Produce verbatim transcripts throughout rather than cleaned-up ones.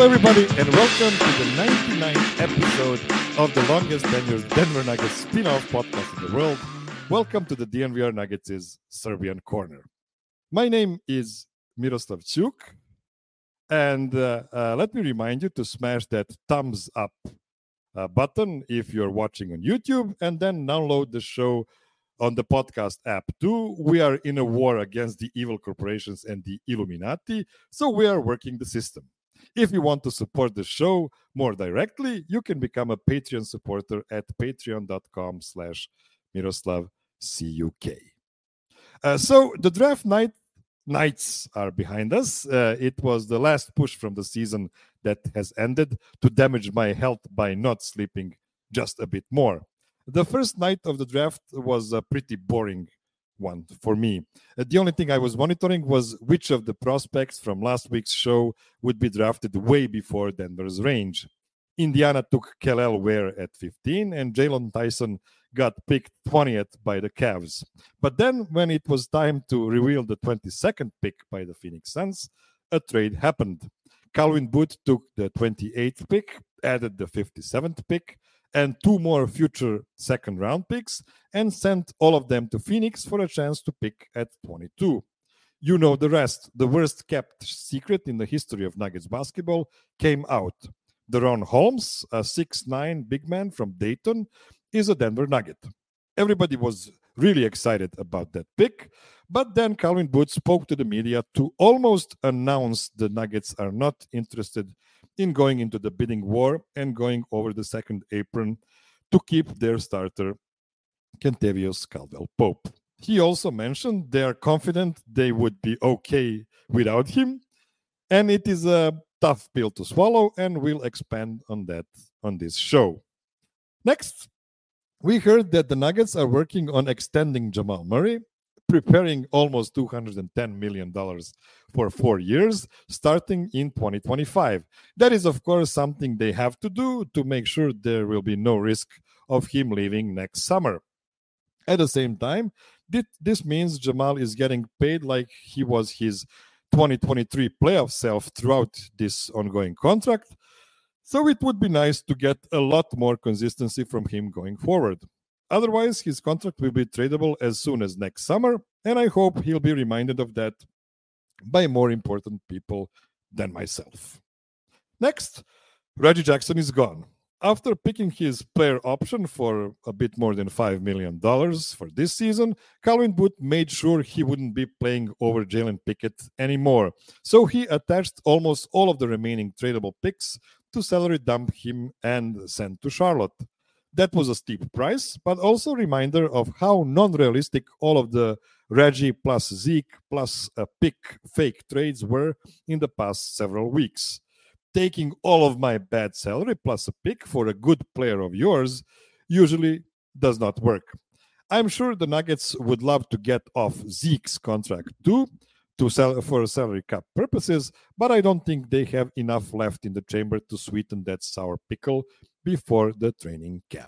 everybody, and welcome to the ninety-ninth episode of the longest tenured Denver Nuggets spin-off podcast in the world. Welcome to the D N V R Nuggets' Serbian Corner. My name is Miroslav Chuk, and uh, uh, let me remind you to smash that thumbs up uh, button if you're watching on YouTube, and then download the show on the podcast app too. We are in a war against the evil corporations and the Illuminati, so we are working the system. If you want to support the show more directly, you can become a Patreon supporter at patreon.com slash Miroslav CUK. Uh, so the draft night nights are behind us. Uh, it was the last push from the season that has ended to damage my health by not sleeping just a bit more. The first night of the draft was a pretty boring one for me. Uh, the only thing I was monitoring was which of the prospects from last week's show would be drafted way before Denver's range. Indiana took Kel'el Ware at fifteen, and Jalen Tyson got picked twentieth by the Cavs. But then, when it was time to reveal the twenty-second pick by the Phoenix Suns, a trade happened. Calvin Booth took the twenty-eighth pick, added the fifty-seventh pick, and two more future second-round picks, and sent all of them to Phoenix for a chance to pick at twenty-two. You know the rest. The worst-kept secret in the history of Nuggets basketball came out. Deron Holmes, a six nine big man from Dayton, is a Denver Nugget. Everybody was really excited about that pick, but then Calvin Booth spoke to the media to almost announce the Nuggets are not interested in going into the bidding war and going over the second apron to keep their starter, Kentavious Caldwell-Pope. He also mentioned they are confident they would be okay without him, and it is a tough pill to swallow, and we'll expand on that on this show. Next, we heard that the Nuggets are working on extending Jamal Murray, preparing almost two hundred ten million dollars for four years, starting in twenty twenty-five. That is, of course, something they have to do to make sure there will be no risk of him leaving next summer. At the same time, this means Jamal is getting paid like he was his twenty twenty-three playoff self throughout this ongoing contract, so it would be nice to get a lot more consistency from him going forward. Otherwise, his contract will be tradable as soon as next summer, and I hope he'll be reminded of that by more important people than myself. Next, Reggie Jackson is gone. After picking his player option for a bit more than five million dollars for this season, Calvin Booth made sure he wouldn't be playing over Jalen Pickett anymore, so he attached almost all of the remaining tradable picks to salary dump him and send to Charlotte. That was a steep price, but also a reminder of how non-realistic all of the Reggie plus Zeke plus a pick fake trades were in the past several weeks. Taking all of my bad salary plus a pick for a good player of yours usually does not work. I'm sure the Nuggets would love to get off Zeke's contract too, to sell for salary cap purposes, but I don't think they have enough left in the chamber to sweeten that sour pickle before the training camp.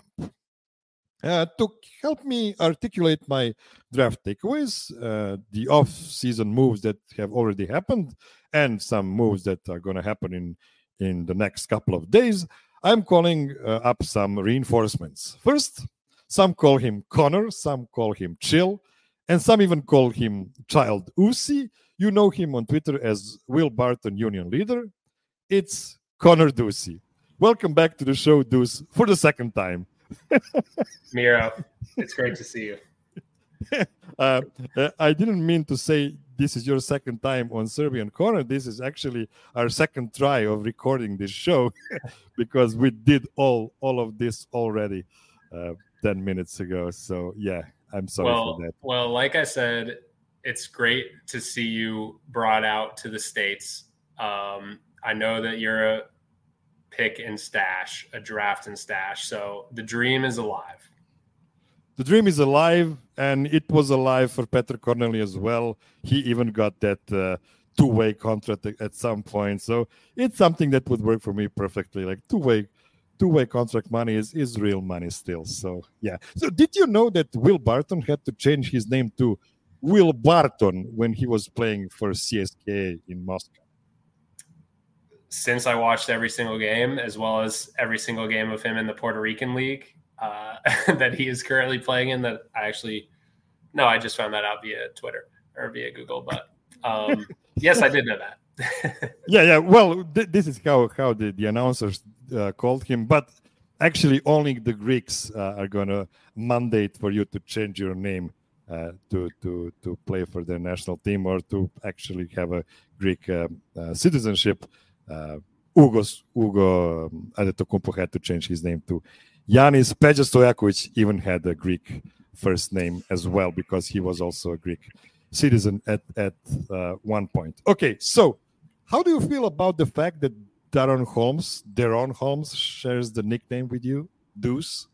Uh, to help me articulate my draft takeaways, uh, the off-season moves that have already happened, and some moves that are going to happen in, in the next couple of days, I'm calling uh, up some reinforcements. First, some call him Connor, some call him Chill, and some even call him Child Uzi. You know him on Twitter as Will Barton Union Leader. It's Connor Ducey. Welcome back to the show, Deuce, for the second time. Miro, it's great to see you. uh, I didn't mean to say this is your second time on Serbian Corner. This is actually our second try of recording this show because we did all all of this already uh, ten minutes ago. So, yeah, I'm sorry well, for that. Well, like I said, it's great to see you brought out to the States. Um, I know that you're a pick and stash, a draft and stash. So the dream is alive. The dream is alive, and it was alive for Petr Corneli as well. He even got that uh, two-way contract at some point. So it's something that would work for me perfectly. Like two-way two-way contract money is, is real money still. So, yeah. So did you know that Will Barton had to change his name to Will Barton when he was playing for C S K A in Moscow? since I watched every single game, as well as every single game of him in the Puerto Rican League uh, that he is currently playing in, that I actually, no, I just found that out via Twitter or via Google. But um, yes, I did know that. yeah, yeah. Well, th- this is how, how the, the announcers uh, called him. But actually, only the Greeks uh, are going to mandate for you to change your name uh, to, to, to play for their national team or to actually have a Greek uh, uh, citizenship. Uh, Ugo's, Ugo um, Adetokounmpo had to change his name to Yanis. Peja Stojakovic even had a Greek first name as well because he was also a Greek citizen at, at uh, one point. Okay, so how do you feel about the fact that Daron Holmes, Daron Holmes shares the nickname with you, Deuce?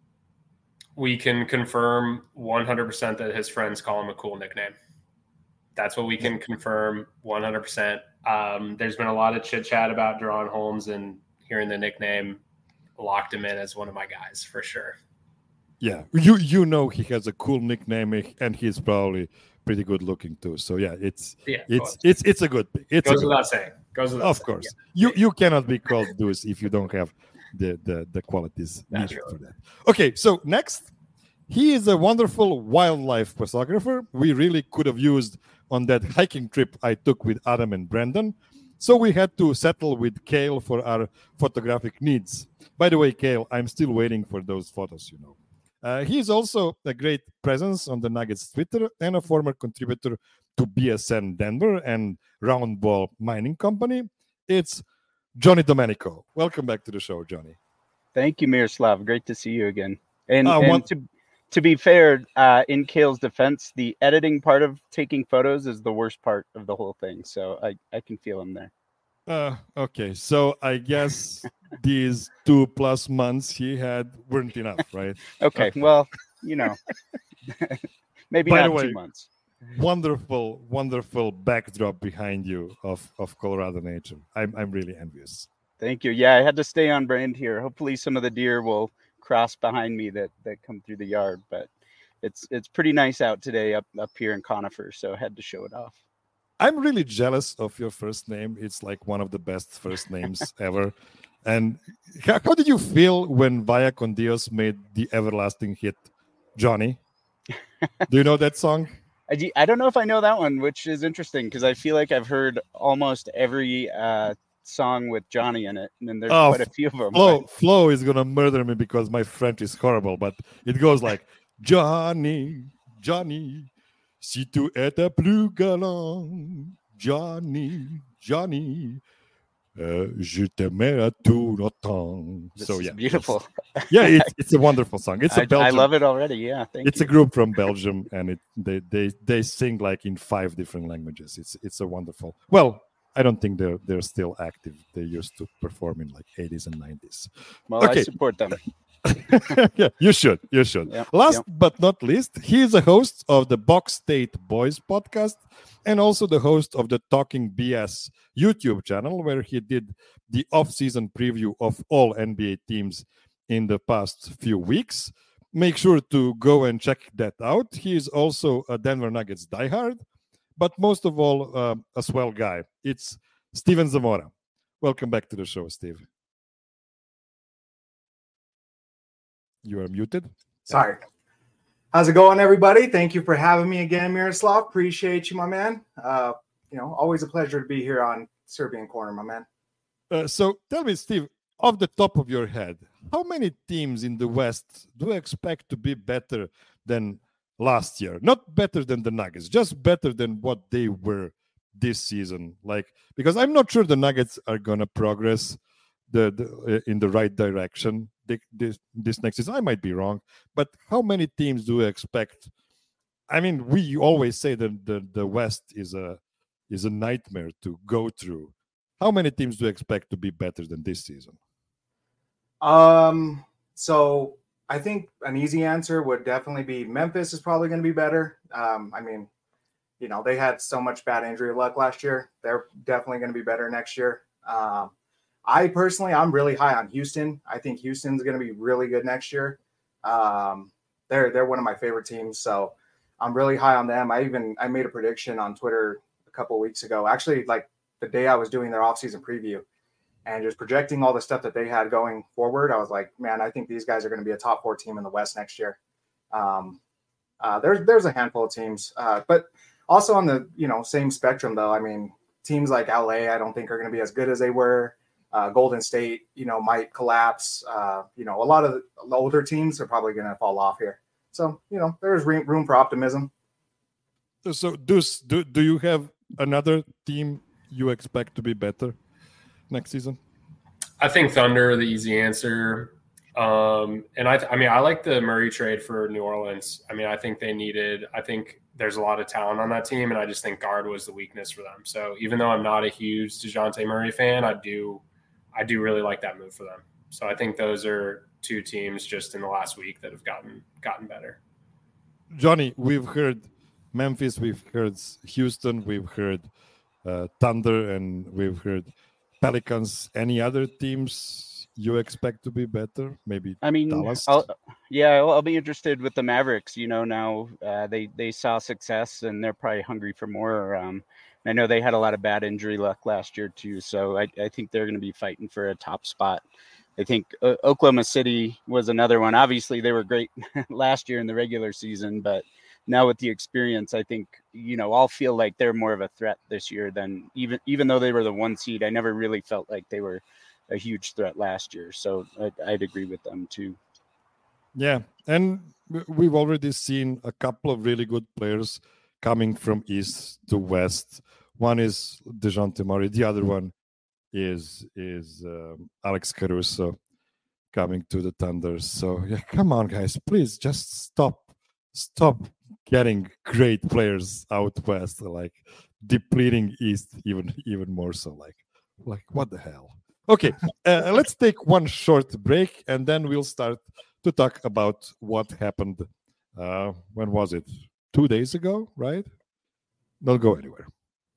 We can confirm one hundred percent that his friends call him a cool nickname. That's what we can confirm one hundred percent. Um, there's been a lot of chit chat about Daron Holmes, and hearing the nickname locked him in as one of my guys for sure. Yeah, you you know he has a cool nickname, and he's probably pretty good looking too. So yeah, it's yeah, it's it's it's a good pick. It's goes a without saying. Goes without of saying. course. Yeah. You you cannot be called Deuce if you don't have the the the qualities That's needed right. for that. Okay, so next, he is a wonderful wildlife photographer. We really could have used on that hiking trip I took with Adam and Brandon. So we had to settle with Kale for our photographic needs. By the way, Kale, I'm still waiting for those photos, you know. Uh, he is also a great presence on the Nuggets Twitter and a former contributor to B S N Denver and Roundball Mining Company. It's Johnny Domenico. Welcome back to the show, Johnny. Thank you, Miroslav. Great to see you again. And, Uh, and one- to to be fair, uh, in Kale's defense, the editing part of taking photos is the worst part of the whole thing. So I, I can feel him there. Uh, okay, so I guess these two plus months he had weren't enough, right? Okay, well, you know, maybe By not the way, two months. Wonderful, wonderful backdrop behind you of, of Colorado nature. I'm I'm really envious. Thank you. Yeah, I had to stay on brand here. Hopefully some of the deer will cross behind me that, that come through the yard, but it's it's pretty nice out today up, up here in Conifer, so I had to show it off. I'm really jealous of your first name. It's like one of the best first names ever. And how, how did you feel when Vaya con Dios made the everlasting hit, Johnny? Do you know that song? I, do, I don't know if I know that one, which is interesting because I feel like I've heard almost every uh, song with Johnny in it, and then there's Oh, quite a few of them. Flo, but- Flo is gonna murder me because my French is horrible, but it goes like Johnny, Johnny, si tu étais plus galant, Johnny, Johnny, uh, je t'aimerais tout le temps. This So is yeah, beautiful. it's- yeah, it's it's a wonderful song. It's a I, I Belgian. love it already. Yeah, thank It's you. a group from Belgium, and it they they they sing like in five different languages. It's it's a wonderful. Well, I don't think they're they're still active. They used to perform in like eighties and nineties. Well, okay. I support them. Yeah, you should. You should. Yep, Last yep. but not least, he is a host of the Box State Boys podcast and also the host of the Talking B S YouTube channel, where he did the off-season preview of all N B A teams in the past few weeks. Make sure to go and check that out. He is also a Denver Nuggets diehard, but most of all, uh, a swell guy. It's Steven Zamora. Welcome back to the show, Steve. You are muted. Sorry. How's it going, everybody? Thank you for having me again, Miroslav. Appreciate you, my man. Uh, you know, always a pleasure to be here on Serbian Corner, my man. Uh, so tell me, Steve, off the top of your head, how many teams in the West do you expect to be better than last year? Not better than the Nuggets, just better than what they were this season. Like, because I'm not sure the Nuggets are gonna progress the, the uh, in the right direction they, this this next season. I might be wrong, but how many teams do you expect? I mean, we always say that the, the West is a is a nightmare to go through. How many teams do you expect to be better than this season? Um, so I think an easy answer would definitely be Memphis is probably going to be better. Um, I mean, you know, they had so much bad injury luck last year. They're definitely going to be better next year. Um, I personally, I'm really high on Houston. I think Houston's going to be really good next year. Um, they're they're one of my favorite teams, so I'm really high on them. I even I made a prediction on Twitter a couple of weeks ago. Actually, like the day I was doing their offseason preview, and just projecting all the stuff that they had going forward, I was like, man, I think these guys are going to be a top four team in the West next year. Um, uh, there's there's a handful of teams, uh, but also on the you know same spectrum though. I mean, teams like L A, I don't think are going to be as good as they were. Uh, Golden State, you know, might collapse. Uh, you know, a lot of the older teams are probably going to fall off here. So you know, there's room for optimism. So, Deuce, do do you have another team you expect to be better next season? I think Thunder are the easy answer. Um, and I, I mean, I like the Murray trade for New Orleans. I mean, I think they needed, I think there's a lot of talent on that team, and I just think guard was the weakness for them. So even though I'm not a huge DeJounte Murray fan, I do, I do really like that move for them. So I think those are two teams just in the last week that have gotten, gotten better. Johnny, we've heard Memphis, we've heard Houston, we've heard uh, Thunder, and we've heard Pelicans. Any other teams you expect to be better? Maybe I mean, Dallas? I'll, yeah, I'll, I'll be interested with the Mavericks. You know, now uh, they they saw success and they're probably hungry for more. Um, I know they had a lot of bad injury luck last year too, so I, I think they're going to be fighting for a top spot. I think uh, Oklahoma City was another one. Obviously, they were great last year in the regular season, but now with the experience, I think, you know, I'll feel like they're more of a threat this year than even even though they were the one seed. I never really felt like they were a huge threat last year. So I'd, I'd agree with them too. Yeah. And we've already seen a couple of really good players coming from East to West. One is DeJounte Murray. The other one is is um, Alex Caruso coming to the Thunder. So yeah, come on, guys, please just stop, stop getting great players out West, like depleting East even even more so. Like, like what the hell? Okay, uh, let's take one short break, and then we'll start to talk about what happened. Uh, when was it? Two days ago, right? Don't go anywhere.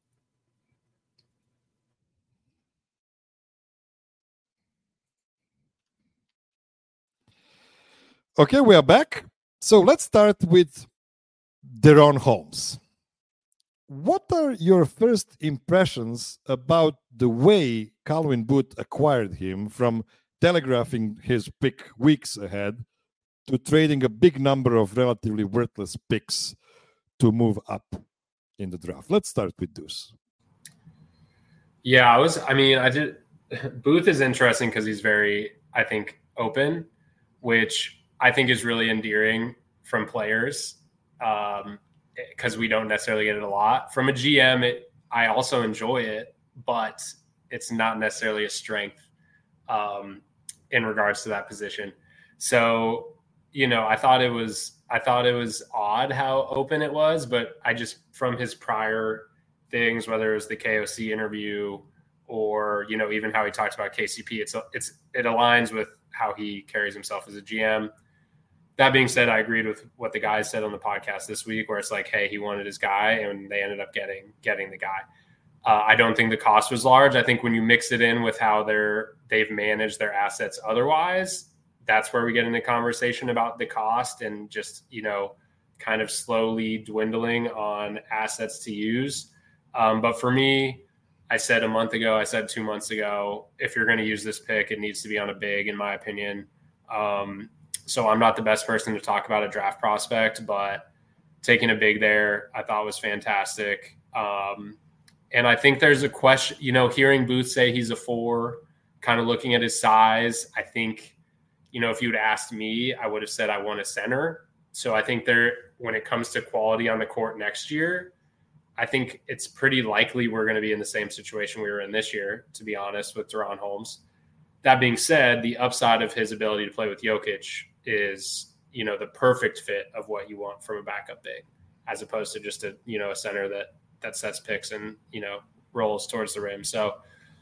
Okay, we are back. So let's start with DaRon Holmes. What are your first impressions about the way Calvin Booth acquired him, from telegraphing his pick weeks ahead to trading a big number of relatively worthless picks to move up in the draft? Let's start with Deuce. Yeah, I was, I mean, I did, Booth is interesting because he's very, I think, open, which I think is really endearing from players. Um, because we don't necessarily get it a lot. From a G M, it, I also enjoy it, but it's not necessarily a strength um, in regards to that position. So, you know, I thought it was, I thought it was odd how open it was, but I just, from his prior things, whether it was the K O C interview or, you know, even how he talks about K C P, it's, it's, it aligns with how he carries himself as a G M. That being said, I agreed with what the guys said on the podcast this week, where it's like, hey, he wanted his guy, and they ended up getting getting the guy. Uh, I don't think the cost was large. I think when you mix it in with how they're they've managed their assets otherwise, that's where we get into conversation about the cost and just, you know, kind of slowly dwindling on assets to use. Um, but for me, I said a month ago, I said two months ago, if you're going to use this pick, it needs to be on a big, in my opinion. Um, So I'm not the best person to talk about a draft prospect, but taking a big there, I thought was fantastic. Um, and I think there's a question, you know, hearing Booth say he's a four, kind of looking at his size, I think, you know, if you'd asked me, I would have said I want a center. So I think there, when it comes to quality on the court next year, I think it's pretty likely we're going to be in the same situation we were in this year, to be honest, with DaRon Holmes. That being said, the upside of his ability to play with Jokic is, you know, the perfect fit of what you want from a backup big, as opposed to just a, you know, a center that, that sets picks and, you know, rolls towards the rim. So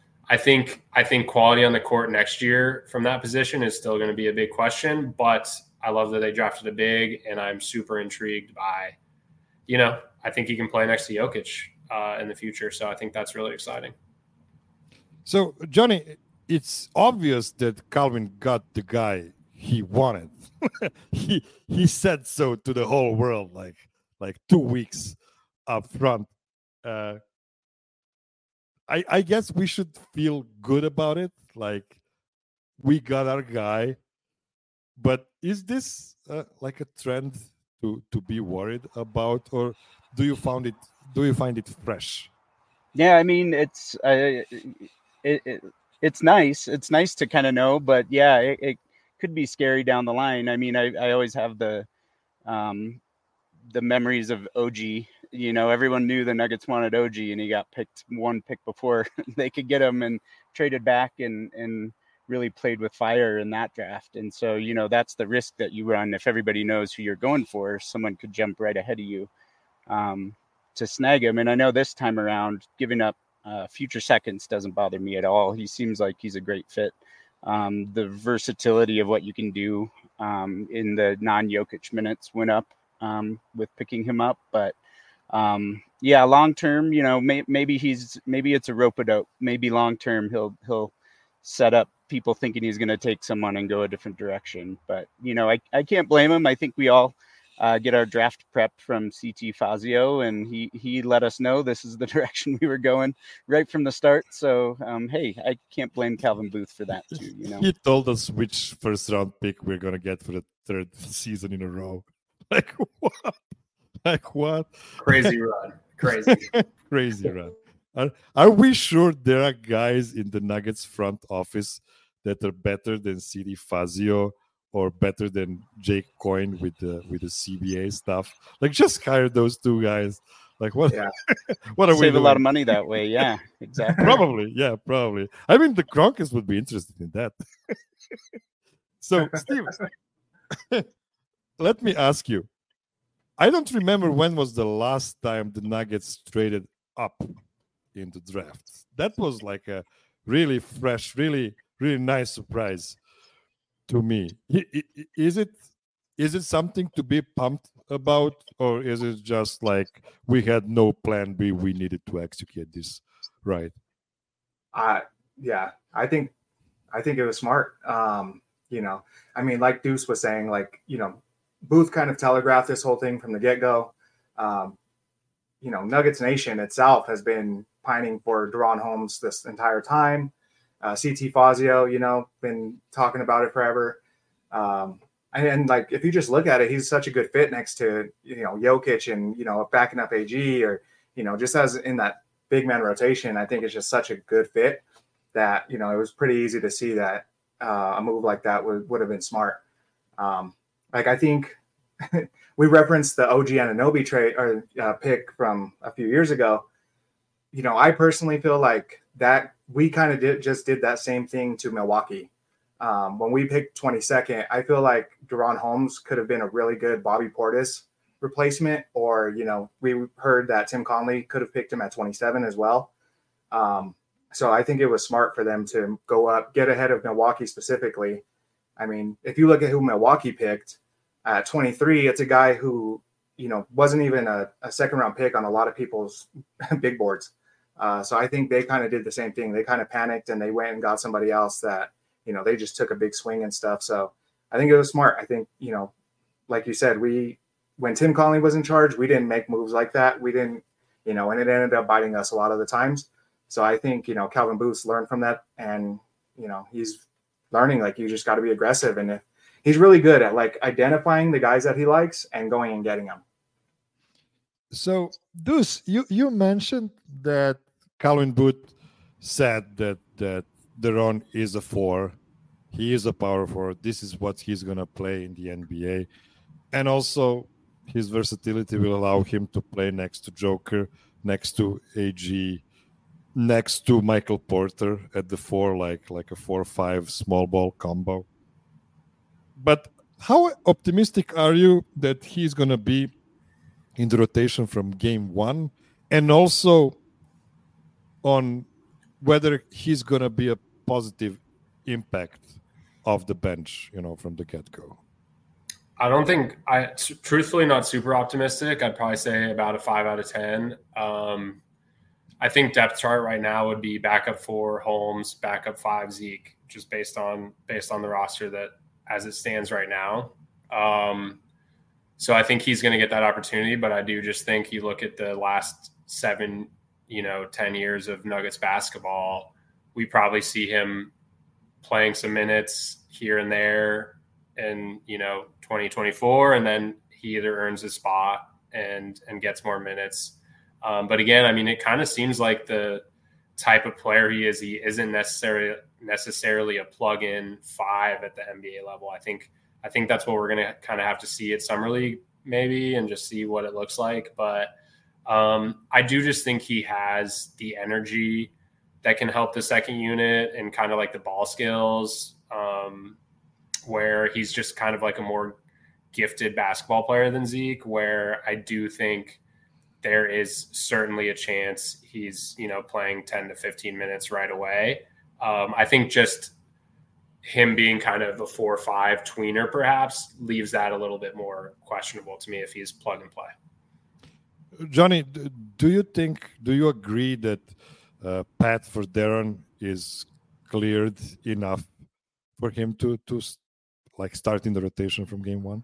I think, I think quality on the court next year from that position is still going to be a big question, but I love that they drafted a big, and I'm super intrigued by, you know, I think he can play next to Jokic uh, in the future. So I think that's really exciting. So Johnny, it's obvious that Calvin got the guy he wanted. he he said so to the whole world, like like two weeks up front. Uh, I, I guess we should feel good about it. Like we got our guy, but is this uh, like a trend to to be worried about, or do you found it do you find it fresh? Yeah, I mean, it's uh, it, it it's nice. It's nice to kind of know, but yeah, it, it could be scary down the line. I mean, I, I always have the um, the memories of O G. You know, everyone knew the Nuggets wanted O G, and he got picked one pick before they could get him, and traded back and and really played with fire in that draft. And so, you know, that's the risk that you run if everybody knows who you're going for. Someone could jump right ahead of you um, to snag him. And I know this time around, giving up uh, future seconds doesn't bother me at all. He seems like he's a great fit. Um, the versatility of what you can do um, in the non-Jokic minutes went up um, with picking him up. But um, yeah, long term, you know, may, maybe he's maybe it's a rope-a-dope. Maybe long term he'll he'll set up people thinking he's going to take someone and go a different direction. But you know, I I can't blame him. I think we all uh, get our draft prep from C T Fazio, and he he let us know this is the direction we were going right from the start. So um, hey, I can't blame Calvin Booth for that too. You know, he told us which first round pick we're gonna get for the third season in a row. Like what? Like what? Crazy run, crazy, crazy run. Are, are we sure there are guys in the Nuggets front office that are better than C T Fazio or better than Jake Coyne with the with the C B A stuff? Like, just hire those two guys. Like, what? Yeah. what are save we a doing? lot of money that way. Yeah, exactly. Probably, yeah, probably. I mean, the Kronkers would be interested in that. So, Steve, let me ask you. I don't remember when was the last time the Nuggets traded up in the draft. That was like a really fresh, really, really nice surprise to me. Is it is it something to be pumped about, or is it just like we had no plan B, we needed to execute this right? Uh yeah, I think I think it was smart. Um, you know, I mean, like Deuce was saying, like, you know, Booth kind of telegraphed this whole thing from the get-go. Um, you know, Nuggets Nation itself has been pining for DaRon Holmes this entire time. Uh, C T Fazio, you know, been talking about it forever. Um, and, and like, if you just look at it, he's such a good fit next to, you know, Jokic and, you know, backing up A G, or, you know, just as in that big man rotation. I think it's just such a good fit that, you know, it was pretty easy to see that uh, a move like that would, would have been smart. Um, like, I think we referenced the O G Anunoby trade or uh, pick from a few years ago. You know, I personally feel like that we kind of did just did that same thing to Milwaukee. Um, when we picked twenty-second, I feel like DaRon Holmes could have been a really good Bobby Portis replacement, or, you know, we heard that Tim Conley could have picked him at twenty-seven as well. Um, so I think it was smart for them to go up, get ahead of Milwaukee specifically. I mean, if you look at who Milwaukee picked at twenty-three, it's a guy who, you know, wasn't even a, a second round pick on a lot of people's big boards. Uh, so I think they kind of did the same thing. They kind of panicked and they went and got somebody else that, you know, they just took a big swing and stuff. So I think it was smart. I think, you know, like you said, we, when Tim Conley was in charge, we didn't make moves like that. We didn't, you know, and it ended up biting us a lot of the times. So I think, you know, Calvin Booth learned from that, and, you know, he's learning, like, you just got to be aggressive. And if he's really good at, like, identifying the guys that he likes and going and getting them. So, Deuce, you, you mentioned that Calvin Booth said that that DaRon is a four. He is a power forward. This is what he's going to play in the N B A. And also, his versatility will allow him to play next to Joker, next to A G, next to Michael Porter at the four, like, like a four five small ball combo. But how optimistic are you that he's going to be in the rotation from game one, and also on whether he's going to be a positive impact of the bench, you know, from the get-go? I don't think I truthfully not super optimistic. I'd probably say about a five out of ten. Um, I think depth chart right now would be backup four Holmes, backup five Zeke, just based on based on the roster that as it stands right now. Um, so I think he's going to get that opportunity, but I do just think you look at the last seven you know, ten years of Nuggets basketball, we probably see him playing some minutes here and there in, you know, twenty twenty-four, and then he either earns a spot and and gets more minutes. Um, but again, I mean, it kind of seems like the type of player he is, he isn't necessarily necessarily a plug-in five at the N B A level. I think I think that's what we're going to kind of have to see at Summer League maybe, and just see what it looks like. But um, I do just think he has the energy that can help the second unit and kind of like the ball skills, um, where he's just kind of like a more gifted basketball player than Zeke, where I do think there is certainly a chance he's, you know, playing ten to fifteen minutes right away. Um, I think just him being kind of a four or five tweener perhaps leaves that a little bit more questionable to me if he's plug and play. Johnny, do you think, do you agree that uh, Pat for Darren is cleared enough for him to, to like start in the rotation from game one?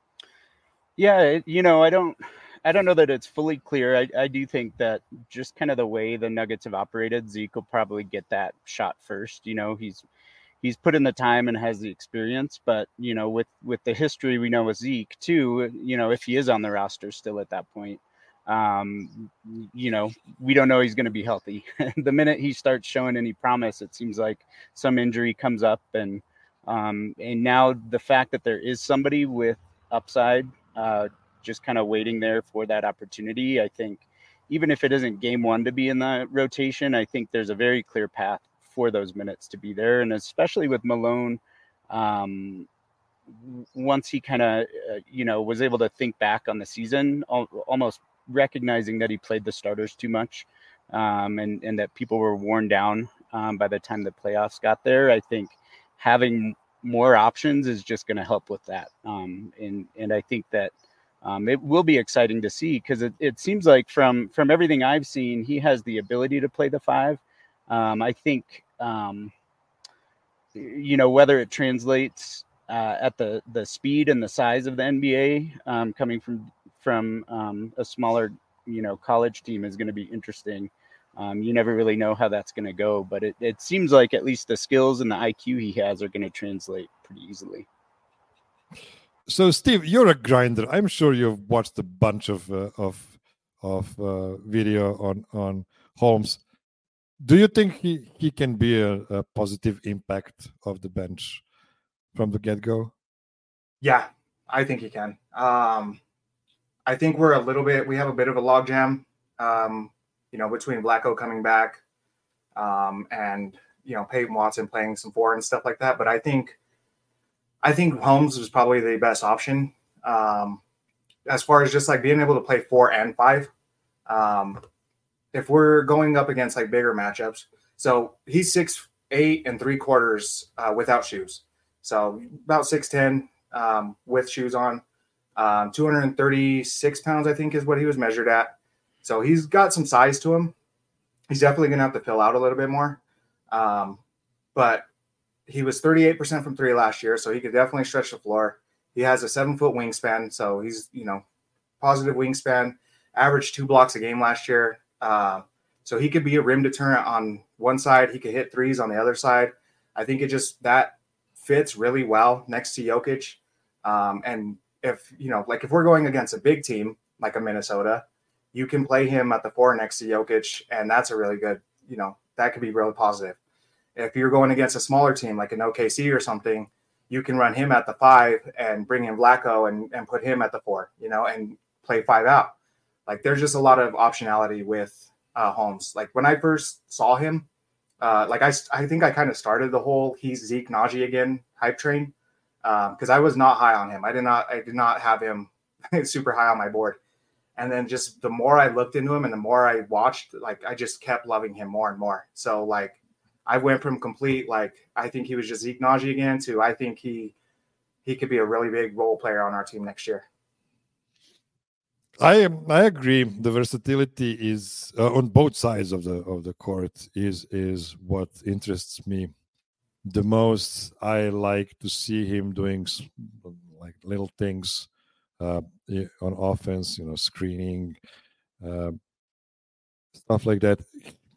Yeah, you know, I don't, I don't know that it's fully clear. I, I do think that just kind of the way the Nuggets have operated, Zeke will probably get that shot first. You know, he's, he's put in the time and has the experience, but you know, with, with the history we know with Zeke too, you know, if he is on the roster still at that point, um, you know, we don't know he's going to be healthy. The minute he starts showing any promise, it seems like some injury comes up, and, um, and now the fact that there is somebody with upside, uh, just kind of waiting there for that opportunity. I think even if it isn't game one to be in the rotation, I think there's a very clear path for those minutes to be there. And especially with Malone, um, once he kind of, uh, you know, was able to think back on the season, al- almost recognizing that he played the starters too much, um, and, and that people were worn down um, by the time the playoffs got there. I think having more options is just going to help with that. Um, and, and I think that um, it will be exciting to see, because it, it seems like from, from everything I've seen, he has the ability to play the five. Um, I think, um, you know, whether it translates uh, at the, the speed and the size of the N B A, um, coming from, from um, a smaller, you know, college team is going to be interesting. Um, you never really know how that's going to go, but it, it seems like at least the skills and the I Q he has are going to translate pretty easily. So, Steve, you're a grinder. I'm sure you've watched a bunch of uh, of of uh, video on on Holmes. Do you think he, he can be a, a positive impact of the bench from the get-go? Yeah, I think he can. Um, I think we're a little bit, we have a bit of a logjam, um, you know, between Vlatko coming back um, and, you know, Peyton Watson playing some four and stuff like that. But I think, I think Holmes was probably the best option um, as far as just like being able to play four and five. Um, if we're going up against like bigger matchups, so he's six, eight and three quarters uh, without shoes. So about six, ten um, with shoes on. Um, two hundred thirty-six pounds, I think, is what he was measured at. So he's got some size to him. He's definitely going to have to fill out a little bit more. Um, but he was thirty-eight percent from three last year, so he could definitely stretch the floor. He has a seven-foot wingspan, so he's, you know, positive wingspan, averaged two blocks a game last year. Uh, so he could be a rim deterrent on one side. He could hit threes on the other side. I think it just, that fits really well next to Jokic. Um, and if, you know, like if we're going against a big team, like a Minnesota, you can play him at the four next to Jokic, and that's a really good, you know, that could be really positive. If you're going against a smaller team, like an O K C or something, you can run him at the five and bring in Vlatko and, and put him at the four, you know, and play five out. Like there's just a lot of optionality with uh, Holmes. Like when I first saw him, uh, like I, I think I kind of started the whole he's Zeke Najee again hype train because um, I was not high on him. I did not I did not have him super high on my board. And then just the more I looked into him and the more I watched, like I just kept loving him more and more. So like I went from complete like I think he was just Zeke Najee again to I think he he could be a really big role player on our team next year. I I agree. The versatility is uh, on both sides of the of the court is is what interests me the most. I like to see him doing like little things uh, on offense, you know, screening, uh, stuff like that.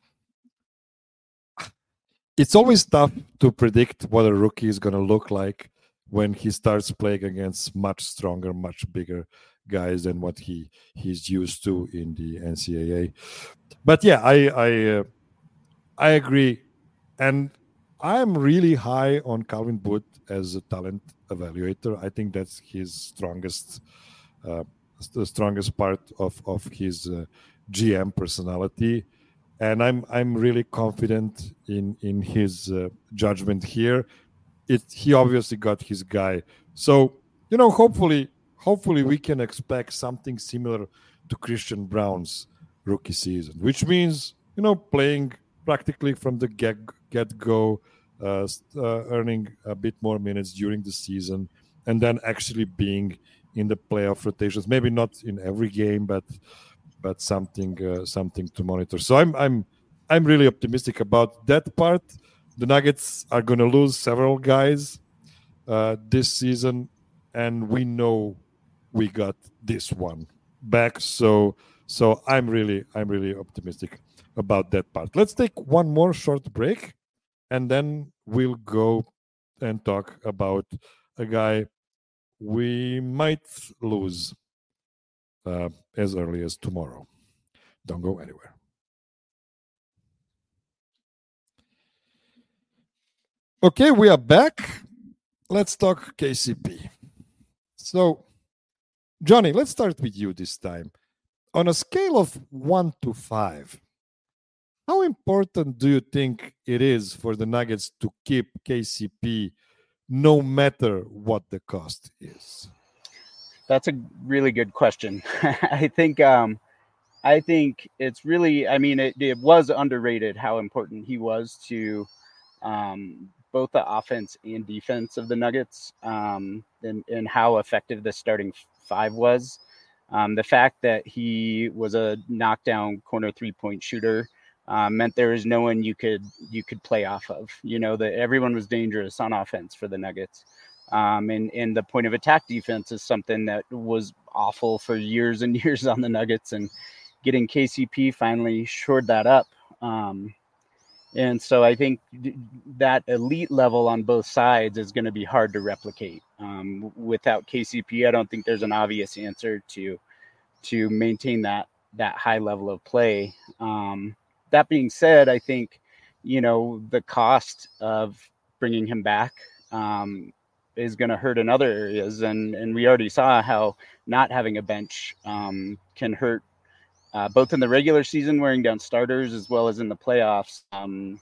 It's always tough to predict what a rookie is going to look like when he starts playing against much stronger, much bigger guys than what he he's used to in the N C double A. But yeah, I I uh, I agree, and I'm really high on Calvin Booth as a talent evaluator. I think that's his strongest, uh, the strongest part of of his uh, G M personality, and I'm I'm really confident in in his uh, judgment here. It he obviously got his guy, so you know hopefully hopefully we can expect something similar to Christian Braun's rookie season, which means you know playing practically from the get get go, uh, uh, earning a bit more minutes during the season, and then actually being in the playoff rotations. Maybe not in every game, but but something uh, something to monitor. So I'm I'm I'm really optimistic about that part. The Nuggets are going to lose several guys uh, this season, and we know we got this one back. So so I'm really I'm really optimistic about that part. Let's take one more short break, and then we'll go and talk about a guy we might lose uh, as early as tomorrow. Don't go anywhere. Okay, we are back. Let's talk K C P. So, Johnny, let's start with you this time. On a scale of one to five, how important do you think it is for the Nuggets to keep K C P no matter what the cost is? That's a really good question. I think um, I think it's really, I mean, it, it was underrated how important he was to um, both the offense and defense of the Nuggets, um, and, and how effective the starting five was. Um, the fact that he was a knockdown corner three-point shooter uh, meant there was no one you could you could play off of. You know, that everyone was dangerous on offense for the Nuggets. Um, and, and the point of attack defense is something that was awful for years and years on the Nuggets, and getting K C P finally shored that up. Um, and so I think that elite level on both sides is going to be hard to replicate. Um, without K C P, I don't think there's an obvious answer to to maintain that that high level of play. Um, that being said, I think, you know, the cost of bringing him back um, is going to hurt in other areas. And, and we already saw how not having a bench um, can hurt uh, both in the regular season, wearing down starters, as well as in the playoffs um,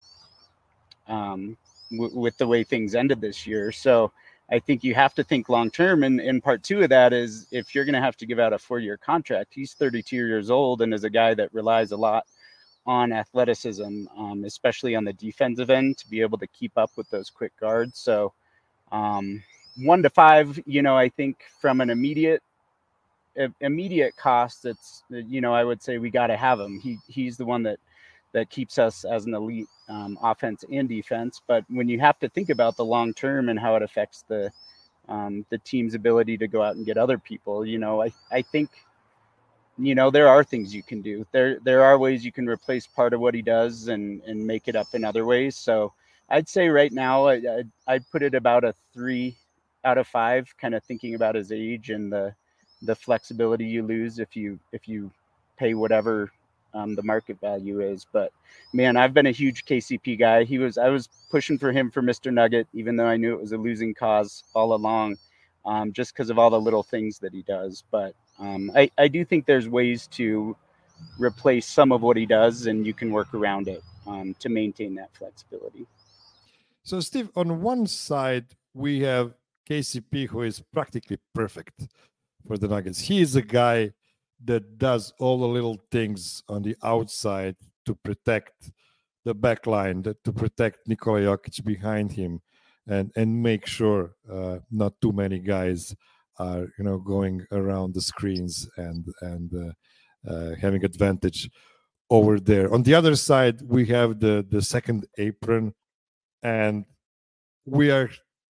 um, w- with the way things ended this year. So I think you have to think long-term. And, and part two of that is, if you're going to have to give out a four-year contract, he's thirty-two years old and is a guy that relies a lot on athleticism, um, especially on the defensive end, to be able to keep up with those quick guards. So um, one to five, you know, I think from an immediate immediate cost, it's, you know, I would say we got to have him. He he's the one that that keeps us as an elite um, offense and defense. But when you have to think about the long term and how it affects the um, the team's ability to go out and get other people, you know, I I think, you know, there are things you can do. There there are ways you can replace part of what he does and and make it up in other ways. So I'd say right now I I'd, I'd put it about a three out of five, kind of thinking about his age and the the flexibility you lose if you if you pay whatever um, the market value is. But man, I've been a huge K C P guy. He was I was pushing for him for Mister Nugget, even though I knew it was a losing cause all along, um, just because of all the little things that he does. But um, I, I do think there's ways to replace some of what he does, and you can work around it um, to maintain that flexibility. So, Steve, on one side, we have K C P, who is practically perfect for the Nuggets. He is a guy that does all the little things on the outside to protect the back line, to protect Nikola Jokic behind him, and and make sure uh, not too many guys are, you know, going around the screens and and uh, uh, having advantage over there. On the other side, we have the the second apron, and we are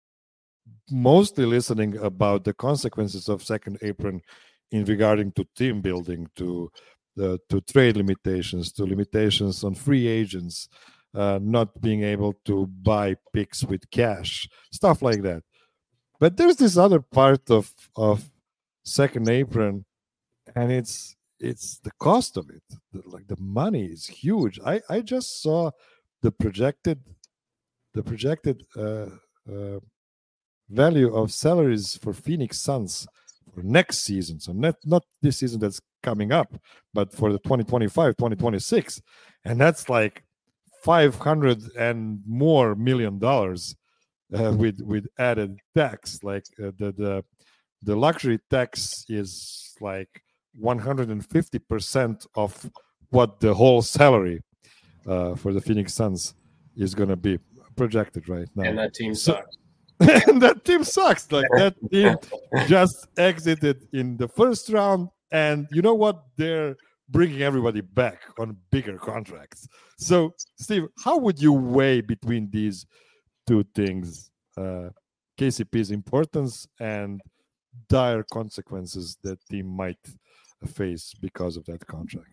mostly listening about the consequences of second apron in regarding to team building, to uh, to trade limitations, to limitations on free agents, uh, not being able to buy picks with cash, stuff like that. But there's this other part of of second apron, and it's it's the cost of it. The, like the money is huge. I I just saw the projected the projected uh, uh, value of salaries for Phoenix Suns for next season. So not not this season that's coming up, but for the twenty twenty-five twenty twenty-six, and that's like five hundred and more million dollars uh, with with added tax. Like uh, the the the luxury tax is like one hundred fifty percent of what the whole salary uh, for the Phoenix Suns is going to be projected right now. And that team So- sucks. and that team sucks. Like that team just exited in the first round, and you know what? They're bringing everybody back on bigger contracts. So, Steve, how would you weigh between these two things? Uh, K C P's importance and dire consequences that team might face because of that contract.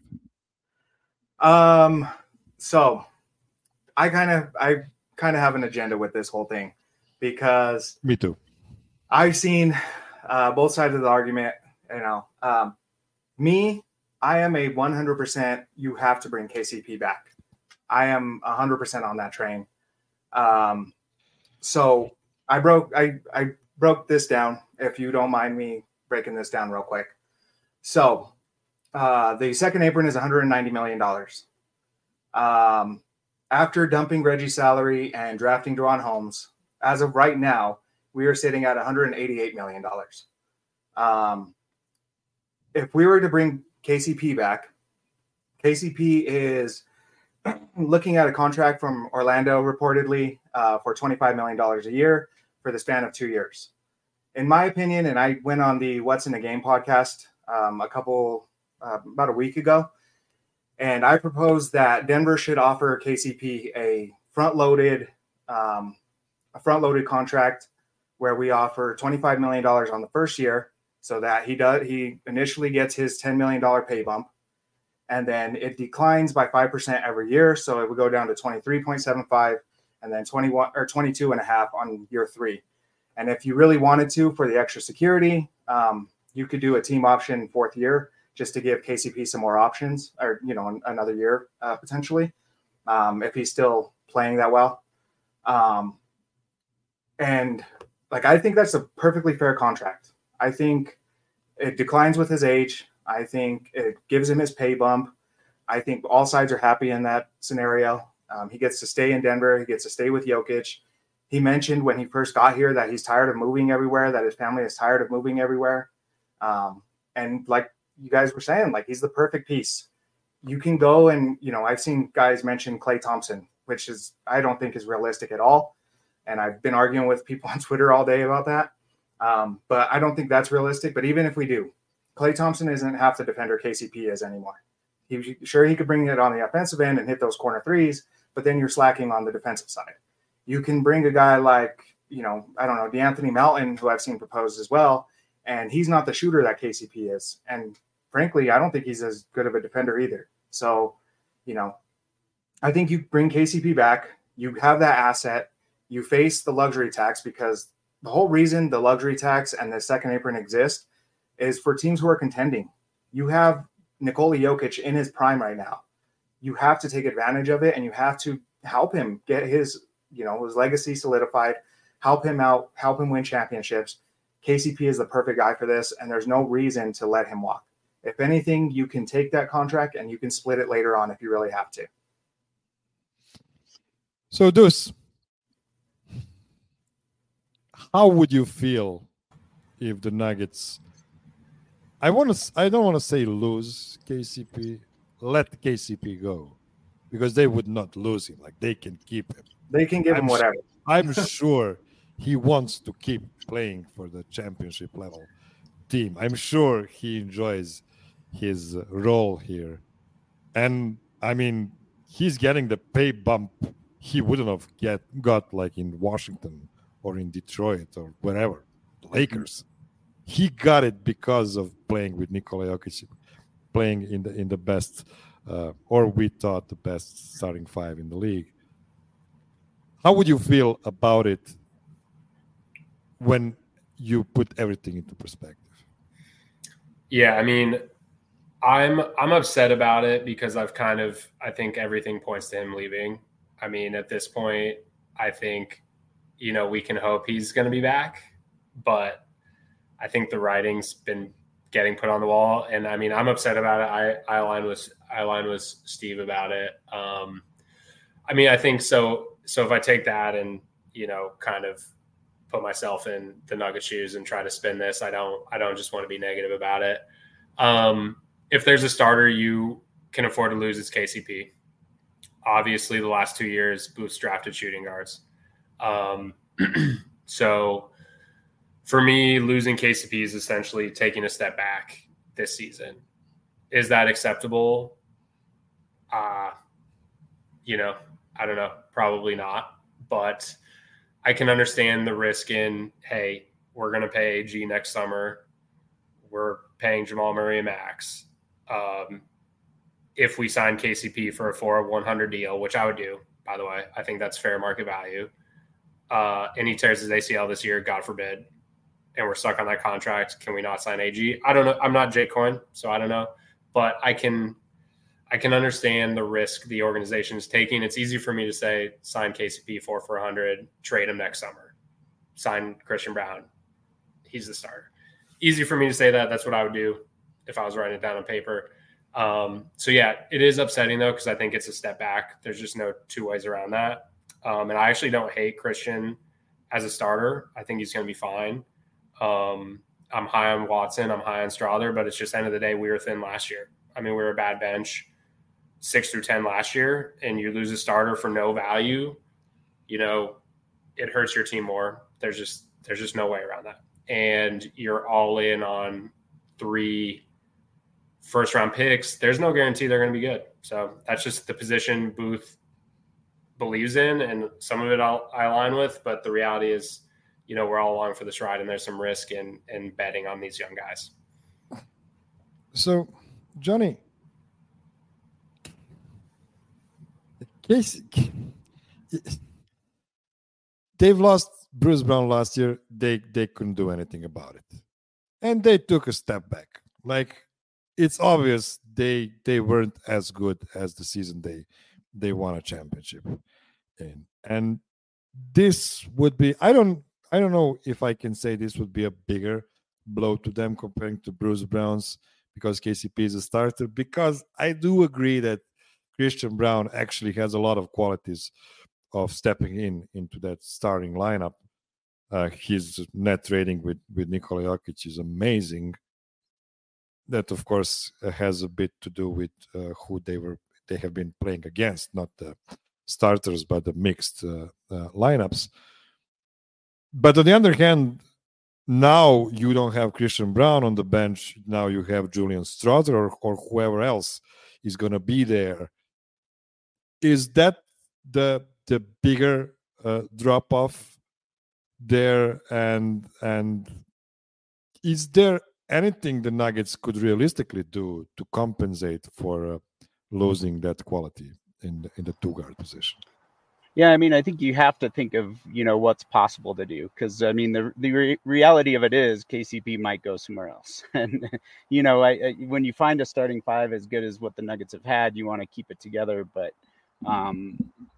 Um, so I kind of I kind of have an agenda with this whole thing because Me too. I've seen uh, both sides of the argument. You know, um, me, I am a one hundred percent. You have to bring K C P back. I am one hundred percent on that train. Um, so I broke I I broke this down. If you don't mind me breaking this down real quick. So uh, the second apron is one hundred ninety million dollars. Um, after dumping Reggie's salary and drafting Deron Holmes, as of right now, we are sitting at one hundred eighty-eight million dollars. Um, if we were to bring K C P back, K C P is looking at a contract from Orlando reportedly uh, for twenty-five million dollars a year for the span of two years. In my opinion, and I went on the What's in the Game podcast um, a couple, uh, about a week ago, and I proposed that Denver should offer K C P a front-loaded, um, a front-loaded contract where we offer twenty-five million dollars on the first year, so that he does he initially gets his ten million dollars pay bump, and then it declines by five percent every year, so it would go down to twenty-three point seven five, and then twenty-one or twenty-two and a half on year three. And if you really wanted to, for the extra security, um, you could do a team option fourth year just to give K C P some more options, or you know, another year uh, potentially, um, if he's still playing that well. Um, and like I think that's a perfectly fair contract. I think it declines with his age. I think it gives him his pay bump. I think all sides are happy in that scenario. Um, he gets to stay in Denver. He gets to stay with Jokic. He mentioned when he first got here that he's tired of moving everywhere, that his family is tired of moving everywhere. Um, and like you guys were saying, like he's the perfect piece. You can go and, you know, I've seen guys mention Klay Thompson, which is, I don't think is realistic at all. And I've been arguing with people on Twitter all day about that. Um, but I don't think that's realistic. But even if we do, Klay Thompson isn't half the defender K C P is anymore. He, sure, he could bring it on the offensive end and hit those corner threes, but then you're slacking on the defensive side. You can bring a guy like, you know, I don't know, DeAnthony Melton, who I've seen proposed as well, and he's not the shooter that K C P is. And frankly, I don't think he's as good of a defender either. So, you know, I think you bring K C P back, you have that asset, you face the luxury tax, because the whole reason the luxury tax and the second apron exist is for teams who are contending. You have Nikola Jokic in his prime right now. You have to take advantage of it, and you have to help him get his, you know, his legacy solidified, help him out, help him win championships. K C P is the perfect guy for this, and there's no reason to let him walk. If anything, you can take that contract and you can split it later on if you really have to. So, Deuce, how would you feel if the Nuggets, I want to, I don't want to say lose K C P, let K C P go, because they would not lose him. Like they can keep him. They can give I'm him whatever. Sure, I'm sure he wants to keep playing for the championship level team. I'm sure he enjoys his role here. And I mean, he's getting the pay bump he wouldn't have get got like in Washington or in Detroit or wherever, Lakers. He got it because of playing with Nikola Jokic. playing in the in the best, uh, or we thought the best starting five in the league. How would you feel about it when you put everything into perspective? Yeah, I mean, I'm I'm upset about it because I've kind of I think everything points to him leaving. I mean, at this point, I think, you know, we can hope he's going to be back, but I think the writing's been getting put on the wall, and I mean, I'm upset about it. I I align with I align with Steve about it. Um, I mean, I think so. So if I take that and, you know, kind of put myself in the Nugget shoes and try to spin this, I don't I don't just want to be negative about it. Um, if there's a starter you can afford to lose, it's K C P. Obviously, the last two years, Booth's drafted shooting guards. Um, so for me, losing K C P is essentially taking a step back this season. Is that acceptable? Uh, you know, I don't know. Probably not. But I can understand the risk in, hey, we're going to pay A G next summer. We're paying Jamal Murray a max. Um, if we sign K C P for a four of one hundred deal, which I would do, by the way, I think that's fair market value. Uh, and he tears his A C L this year, God forbid, and we're stuck on that contract. Can we not sign A G? I don't know. I'm not Jake Coyne, so I don't know. But I can I can understand the risk the organization is taking. It's easy for me to say, sign K C P four for one hundred, trade him next summer. Sign Christian Braun. He's the starter. Easy for me to say that. That's what I would do if I was writing it down on paper. Um, so, yeah, it is upsetting, though, because I think it's a step back. There's just no two ways around that. Um, and I actually don't hate Christian as a starter. I think he's going to be fine. Um, I'm high on Watson. I'm high on Strawther, but it's just end of the day, we were thin last year. I mean, we were a bad bench six through ten last year, and you lose a starter for no value, you know, it hurts your team more. There's just there's just no way around that. And you're all in on three first round picks. There's no guarantee they're going to be good. So that's just the position Booth believes in, and some of it I'll, I align with, but the reality is, you know, we're all along for this ride, and there's some risk in in betting on these young guys. So, Johnny, Casey, they've lost Bruce Brown last year. They they couldn't do anything about it, and they took a step back. Like, it's obvious they they weren't as good as the season they they won a championship in, and this would be I don't I don't know if I can say this would be a bigger blow to them comparing to Bruce Brown's, because K C P is a starter, because I do agree that Christian Braun actually has a lot of qualities of stepping in into that starting lineup. Uh, his net rating with, with Nikola Jokic is amazing. That, of course, has a bit to do with uh, who they were they have been playing against, not the starters, but the mixed uh, uh, lineups. But on the other hand, now you don't have Christian Braun on the bench. Now you have Julian Strawther or, or whoever else is going to be there. Is that the the bigger uh, drop off there? And and is there anything the Nuggets could realistically do to compensate for uh, losing that quality in the, in the two guard position? Yeah, I mean, I think you have to think of, you know, what's possible to do, because I mean, the the re- reality of it is K C P might go somewhere else, and you know, I, I when you find a starting five as good as what the Nuggets have had, you want to keep it together, but um,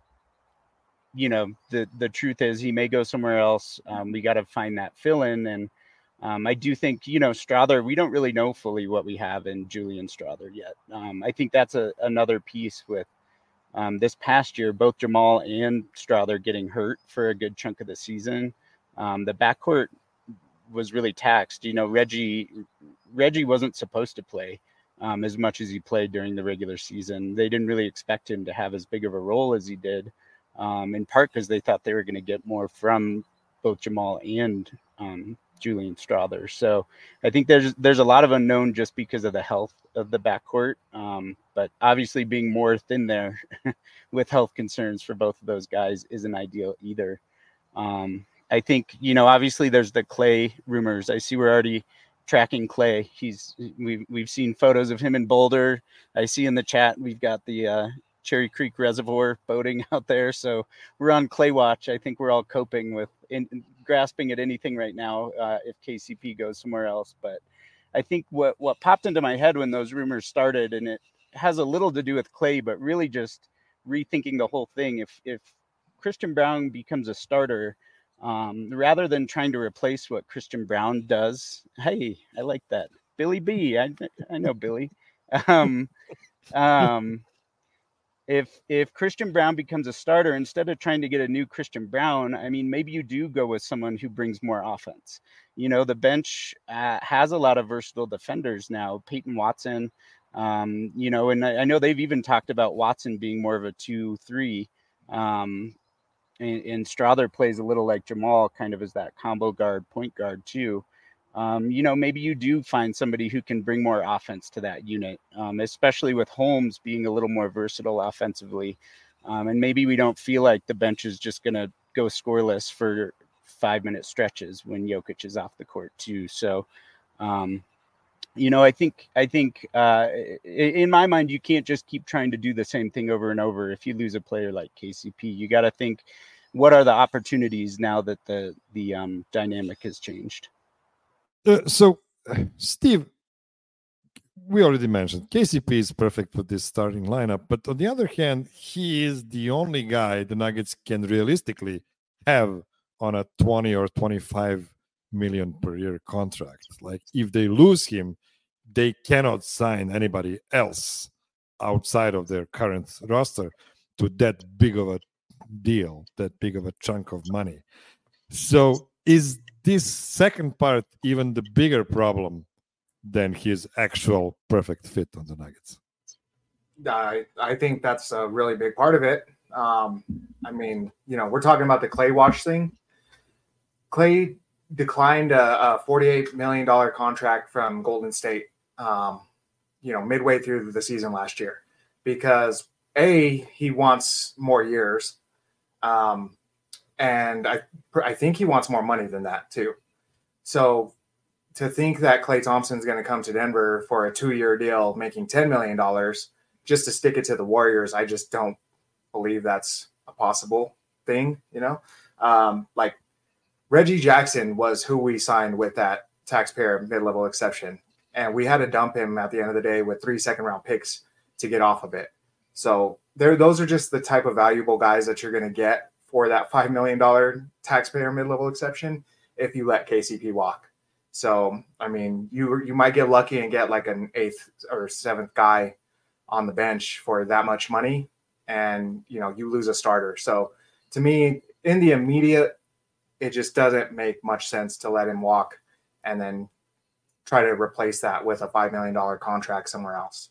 you know, the the truth is he may go somewhere else. Um, we got to find that fill in, and um, I do think, you know, Strawther, we don't really know fully what we have in Julian Strawther yet. Um, I think that's a another piece with. Um, this past year, both Jamal and Strawther getting hurt for a good chunk of the season. Um, the backcourt was really taxed. You know, Reggie Reggie wasn't supposed to play um, as much as he played during the regular season. They didn't really expect him to have as big of a role as he did, um, in part because they thought they were going to get more from both Jamal and um, Julian Strawther. So I think there's there's a lot of unknown just because of the health of the backcourt. Um, but obviously being more thin there with health concerns for both of those guys isn't ideal either. Um, I think, you know, obviously there's the Clay rumors. I see we're already tracking Clay. He's we've we've seen photos of him in Boulder. I see in the chat we've got the uh, Cherry Creek Reservoir boating out there. So we're on Clay watch. I think we're all coping with in, grasping at anything right now uh, if K C P goes somewhere else. But I think what what popped into my head when those rumors started, and it has a little to do with Clay, but really just rethinking the whole thing. If if Christian Braun becomes a starter, um, rather than trying to replace what Christian Braun does, hey, I like that. Billy B, I I know Billy. Um, um, if if Christian Braun becomes a starter, instead of trying to get a new Christian Braun, I mean, maybe you do go with someone who brings more offense. You know, the bench uh, has a lot of versatile defenders now. Peyton Watson. Um, you know, and I, I know they've even talked about Watson being more of a two, three, um, and, and Strother plays a little like Jamal, kind of as that combo guard, point guard too. Um, you know, maybe you do find somebody who can bring more offense to that unit, um, especially with Holmes being a little more versatile offensively. Um, and maybe we don't feel like the bench is just going to go scoreless for five minute stretches when Jokic is off the court too. So, um, You know, I think I think uh, in my mind, you can't just keep trying to do the same thing over and over. If you lose a player like K C P, you got to think, what are the opportunities now that the the um, dynamic has changed? Uh, so, Steve, we already mentioned K C P is perfect for this starting lineup, but on the other hand, he is the only guy the Nuggets can realistically have on a twenty or twenty-five million per year contract. Like, if they lose him, they cannot sign anybody else outside of their current roster to that big of a deal, that big of a chunk of money. So is this second part even the bigger problem than his actual perfect fit on the Nuggets? I, I think that's a really big part of it. Um, I mean, you know, we're talking about the Clay watch thing. Clay declined a, a forty-eight million dollars contract from Golden State, um, you know, midway through the season last year, because A, he wants more years. Um, and I, I think he wants more money than that too. So to think that Klay Thompson's going to come to Denver for a two-year deal, making ten million dollars just to stick it to the Warriors, I just don't believe that's a possible thing, you know? Um, like, Reggie Jackson was who we signed with that taxpayer mid-level exception, and we had to dump him at the end of the day with three second-round picks to get off of it. So there, those are just the type of valuable guys that you're going to get for that five million dollars taxpayer mid-level exception if you let K C P walk. So, I mean, you you might get lucky and get like an eighth or seventh guy on the bench for that much money, and, you know, you lose a starter. So to me, in the immediate, it just doesn't make much sense to let him walk and then try to replace that with a five million dollars contract somewhere else.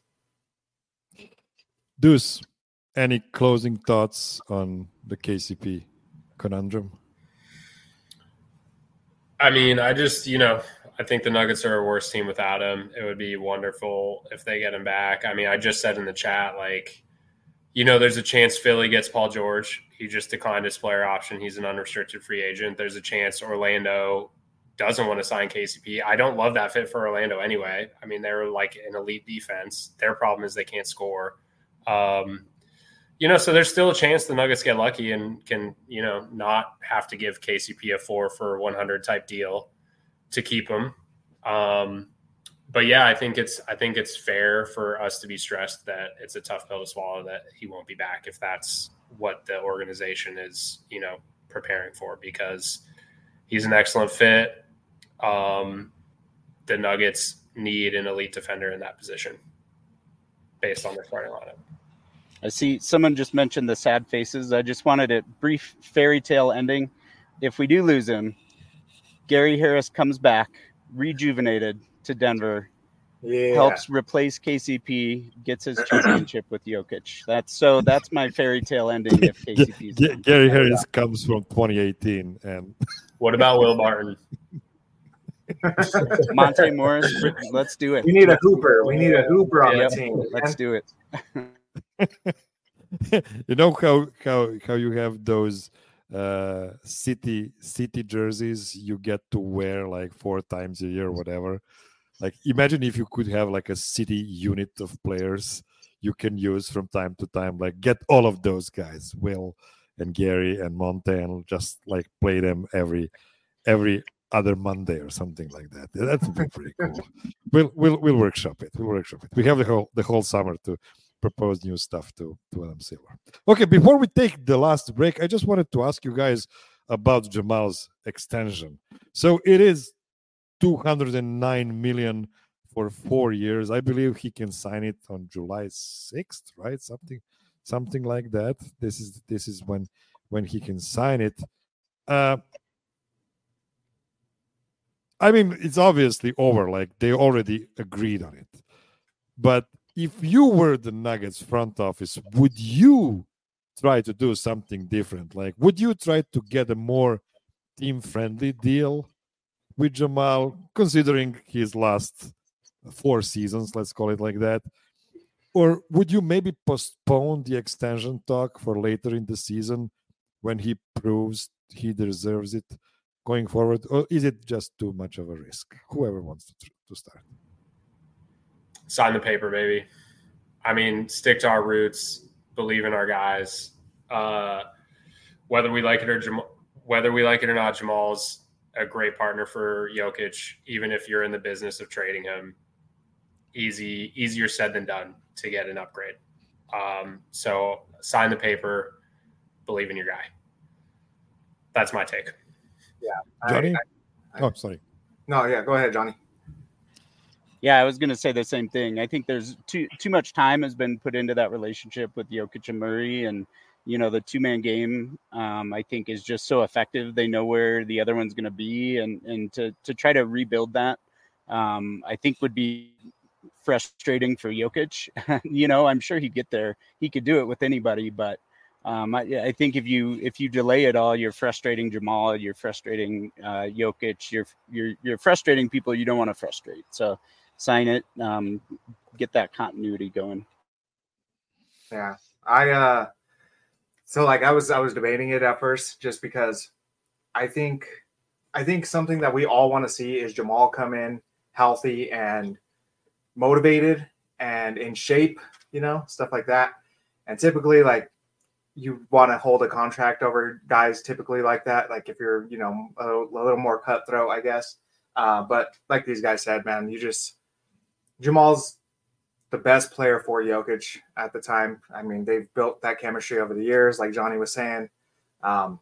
Deuce, any closing thoughts on the K C P conundrum? I mean, I just, you know, I think the Nuggets are a worse team without him. It would be wonderful if they get him back. I mean, I just said in the chat, like, you know, there's a chance Philly gets Paul George. He just declined his player option. He's an unrestricted free agent. There's a chance Orlando doesn't want to sign K C P. I don't love that fit for Orlando anyway. I mean, they're like an elite defense. Their problem is they can't score. Um, you know, so there's still a chance the Nuggets get lucky and can, you know, not have to give K C P a four for one hundred type deal to keep him. Um, but yeah, I think it's, I think it's fair for us to be stressed that it's a tough pill to swallow that he won't be back if that's what the organization is, you know, preparing for, because he's an excellent fit. Um, the Nuggets need an elite defender in that position based on their starting lineup. I see someone just mentioned the sad faces. I just wanted a brief fairy tale ending. If we do lose him, Gary Harris comes back rejuvenated to Denver, Yeah. helps replace K C P, gets his championship with Jokic. That's so that's my fairy tale ending if K C P's G- Gary Harris comes from twenty eighteen. And What about Will Barton? Monte Morris, let's do it. We need a hooper. We need a hooper on Yep, the team. let's do it. you know how how how you have those uh, city city jerseys you get to wear like four times a year, or whatever. Like, imagine if you could have like a city unit of players you can use from time to time. Like, get all of those guys, Will and Gary and Monte, and just like play them every every other Monday or something like that. That would be pretty cool. We'll we'll we'll workshop it. We'll workshop it. We have the whole the whole summer to propose new stuff to to Adam Silver. Okay, before we take the last break, I just wanted to ask you guys about Jamal's extension. So it is two hundred nine million for four years. I believe he can sign it on July sixth, right? Something something like that. This is this is when when he can sign it. Uh, I mean, it's obviously over. Like, they already agreed on it. But if you were the Nuggets front office, would you try to do something different? Like, would you try to get a more team-friendly deal with Jamal, considering his last four seasons, let's call it like that? Or would you maybe postpone the extension talk for later in the season when he proves he deserves it going forward? Or is it just too much of a risk? Whoever wants to, to start. Sign the paper, baby. I mean, stick to our roots, believe in our guys. Uh, whether we like it or Jam- whether we like it or not, Jamal's a great partner for Jokic. Even if you're in the business of trading him, easy, easier said than done to get an upgrade. Um, so sign the paper, believe in your guy. That's my take. Yeah, Johnny? I, I, oh, sorry. No, yeah, go ahead, Johnny. Yeah, I was going to say the same thing. I think there's too too much time has been put into that relationship with Jokic and Murray, and you know the two man game. Um, I think is just so effective. They know where the other one's going to be, and and to to try to rebuild that, um, I think would be frustrating for Jokic. You know, I'm sure he'd get there. He could do it with anybody, but um, I, I think if you if you delay it all, you're frustrating Jamal. You're frustrating uh, Jokic. You're you're you're frustrating people you don't want to frustrate. So. Sign it, um, get that continuity going. Yeah, I uh, so like I was I was debating it at first just because I think I think something that we all want to see is Jamal come in healthy and motivated and in shape, you know, stuff like that. And typically, like, you want to hold a contract over guys typically like that. Like, if you're, you know, a, a little more cutthroat, I guess. Uh, but like these guys said, man, you just. Jamal's the best player for Jokic at the time. I mean, they've built that chemistry over the years, like Johnny was saying. Um,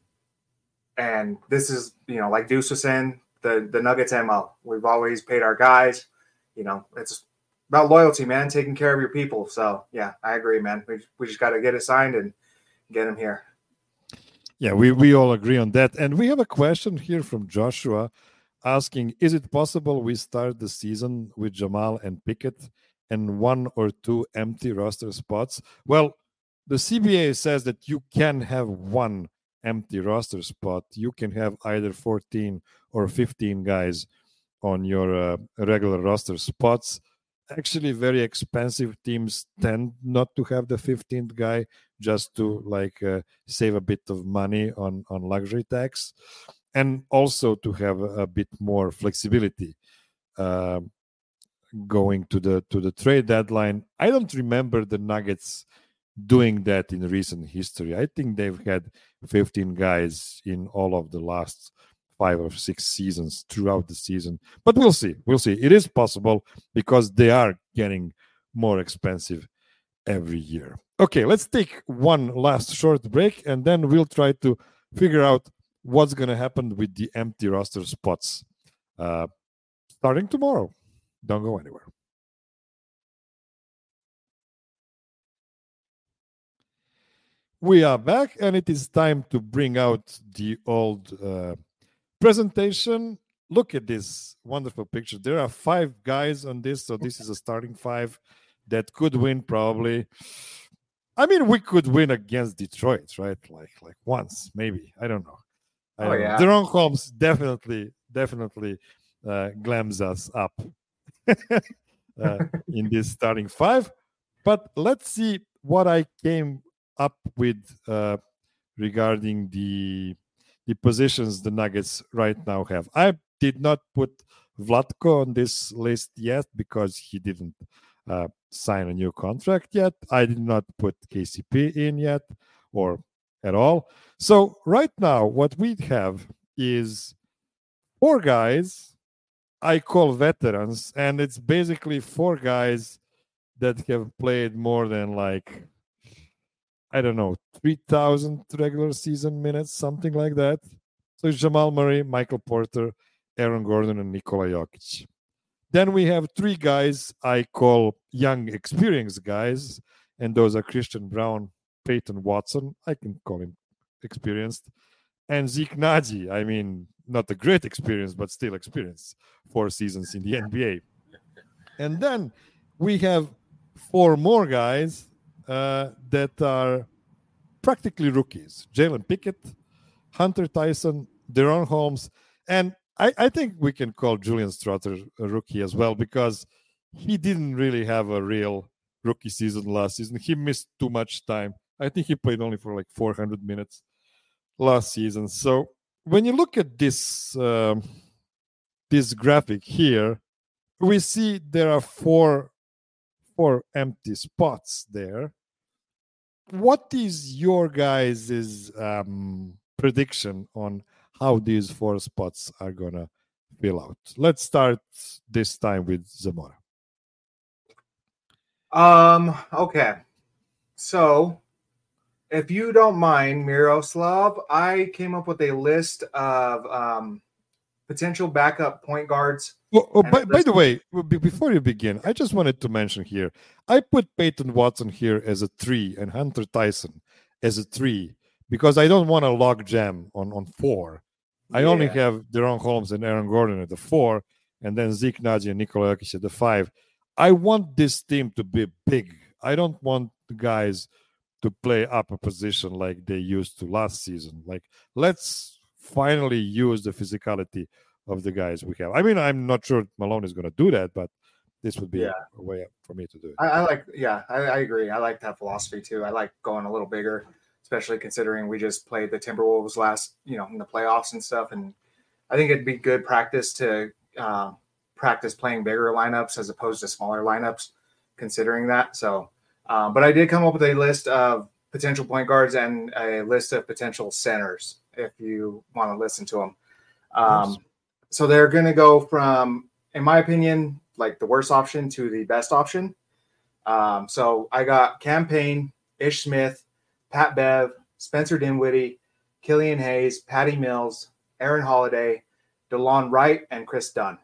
and this is, you know, like Deuce was saying, the, the Nuggets M O. We've always paid our guys. You know, it's about loyalty, man, taking care of your people. So, yeah, I agree, man. We, we just got to get it signed and get him here. Yeah, we, we all agree on that. And we have a question here from Joshua, asking, is it possible we start the season with Jamal and Pickett and one or two empty roster spots? Well, the C B A says that you can have one empty roster spot. You can have either fourteen or fifteen guys on your uh, regular roster spots. Actually, very expensive teams tend not to have the fifteenth guy, just to like uh, save a bit of money on, on luxury tax. And also to have a, a bit more flexibility uh, going to the to the trade deadline. I don't remember the Nuggets doing that in recent history. I think they've had fifteen guys in all of the last five or six seasons throughout the season. But we'll see. We'll see. It is possible because they are getting more expensive every year. Okay, let's take one last short break, and then we'll try to figure out what's going to happen with the empty roster spots uh, starting tomorrow. Don't go anywhere. We are back, and it is time to bring out the old uh, presentation. Look at this wonderful picture. There are five guys on this, so this is a starting five that could win probably. I mean, we could win against Detroit, right? Like, like once, maybe. I don't know. I Oh, yeah. Deron Holmes definitely, definitely uh, glams us up uh, in this starting five. But let's see what I came up with uh, regarding the the positions the Nuggets right now have. I did not put Vlatko on this list yet because he didn't uh, sign a new contract yet. I did not put K C P in yet or at all. So right now, what we have is four guys I call veterans, and it's basically four guys that have played more than like, I don't know, three thousand regular season minutes, something like that. So it's Jamal Murray, Michael Porter, Aaron Gordon, and Nikola Jokic. Then we have three guys I call young, experienced guys, and those are Christian Brown, Peyton Watson, I can call him experienced, and Zeke Naji. I mean, not a great experience, but still experienced. Four seasons in the N B A. And then we have four more guys uh, that are practically rookies. Jalen Pickett, Hunter Tyson, Deron Holmes, and I, I think we can call Julian Strouter a rookie as well because he didn't really have a real rookie season last season. He missed too much time. I think he played only for like four hundred minutes last season. So when you look at this um, this graphic here, we see there are four four empty spots there. What is your guys' um, prediction on how these four spots are gonna fill out? Let's start this time with Zamora. Um. Okay. So, if you don't mind, Miroslav, I came up with a list of um, potential backup point guards. Oh, oh, by, by the way, before you begin, I just wanted to mention here, I put Peyton Watson here as a three and Hunter Tyson as a three because I don't want a log jam on, on four. I yeah. only have Deron Holmes and Aaron Gordon at the four, and then Zeke Naji and Nikola Jokic at the five. I want this team to be big. I don't want the guys to play up a position like they used to last season. Like, let's finally use the physicality of the guys we have. I mean, I'm not sure Malone is going to do that, but this would be yeah. a, a way for me to do it. I, I like, yeah, I, I agree. I like that philosophy too. I like going a little bigger, especially considering we just played the Timberwolves last, you know, in the playoffs and stuff. And I think it'd be good practice to um, practice playing bigger lineups as opposed to smaller lineups, considering that. So, um, but I did come up with a list of potential point guards and a list of potential centers if you want to listen to them. Um, yes. So they're going to go from, in my opinion, like the worst option to the best option. Um, so I got Cam Payne, Ish Smith, Pat Bev, Spencer Dinwiddie, Killian Hayes, Patty Mills, Aaron Holiday, DeLon Wright, and Chris Dunn.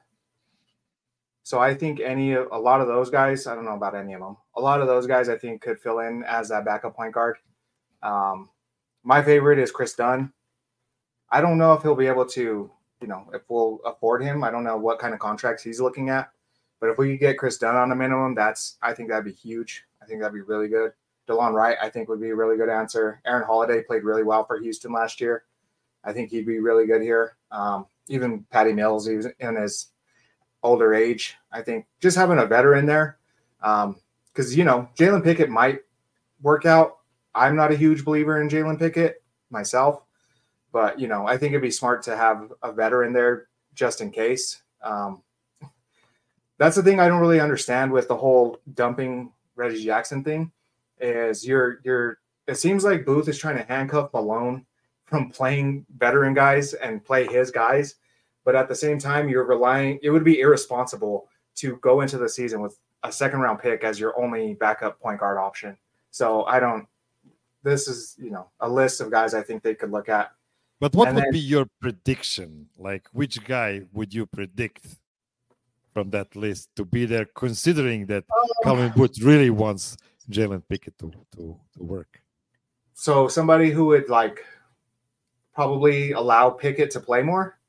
So I think any of a lot of those guys, I don't know about any of them. A lot of those guys I think could fill in as that backup point guard. Um, my favorite is Chris Dunn. I don't know if he'll be able to, you know, if we'll afford him. I don't know what kind of contracts he's looking at. But if we could get Chris Dunn on a minimum, that's I think that'd be huge. I think that'd be really good. DeLon Wright, I think, would be a really good answer. Aaron Holiday played really well for Houston last year. I think he'd be really good here. Um, even Patty Mills, he was in his older age. I think just having a veteran there, because, um, you know, Jalen Pickett might work out. I'm not a huge believer in Jalen Pickett myself, but, you know, I think it'd be smart to have a veteran there just in case. Um, that's the thing I don't really understand with the whole dumping Reggie Jackson thing is you're, you're, it seems like Booth is trying to handcuff Malone from playing veteran guys and play his guys. But at the same time, you're relying, it would be irresponsible to go into the season with a second round pick as your only backup point guard option. So I don't, this is, you know, a list of guys I think they could look at. But what and would then, be your prediction? Like, which guy would you predict from that list to be there, considering that um, Calvin Booth really wants Jalen Pickett to, to, to work? So somebody who would, like, probably allow Pickett to play more?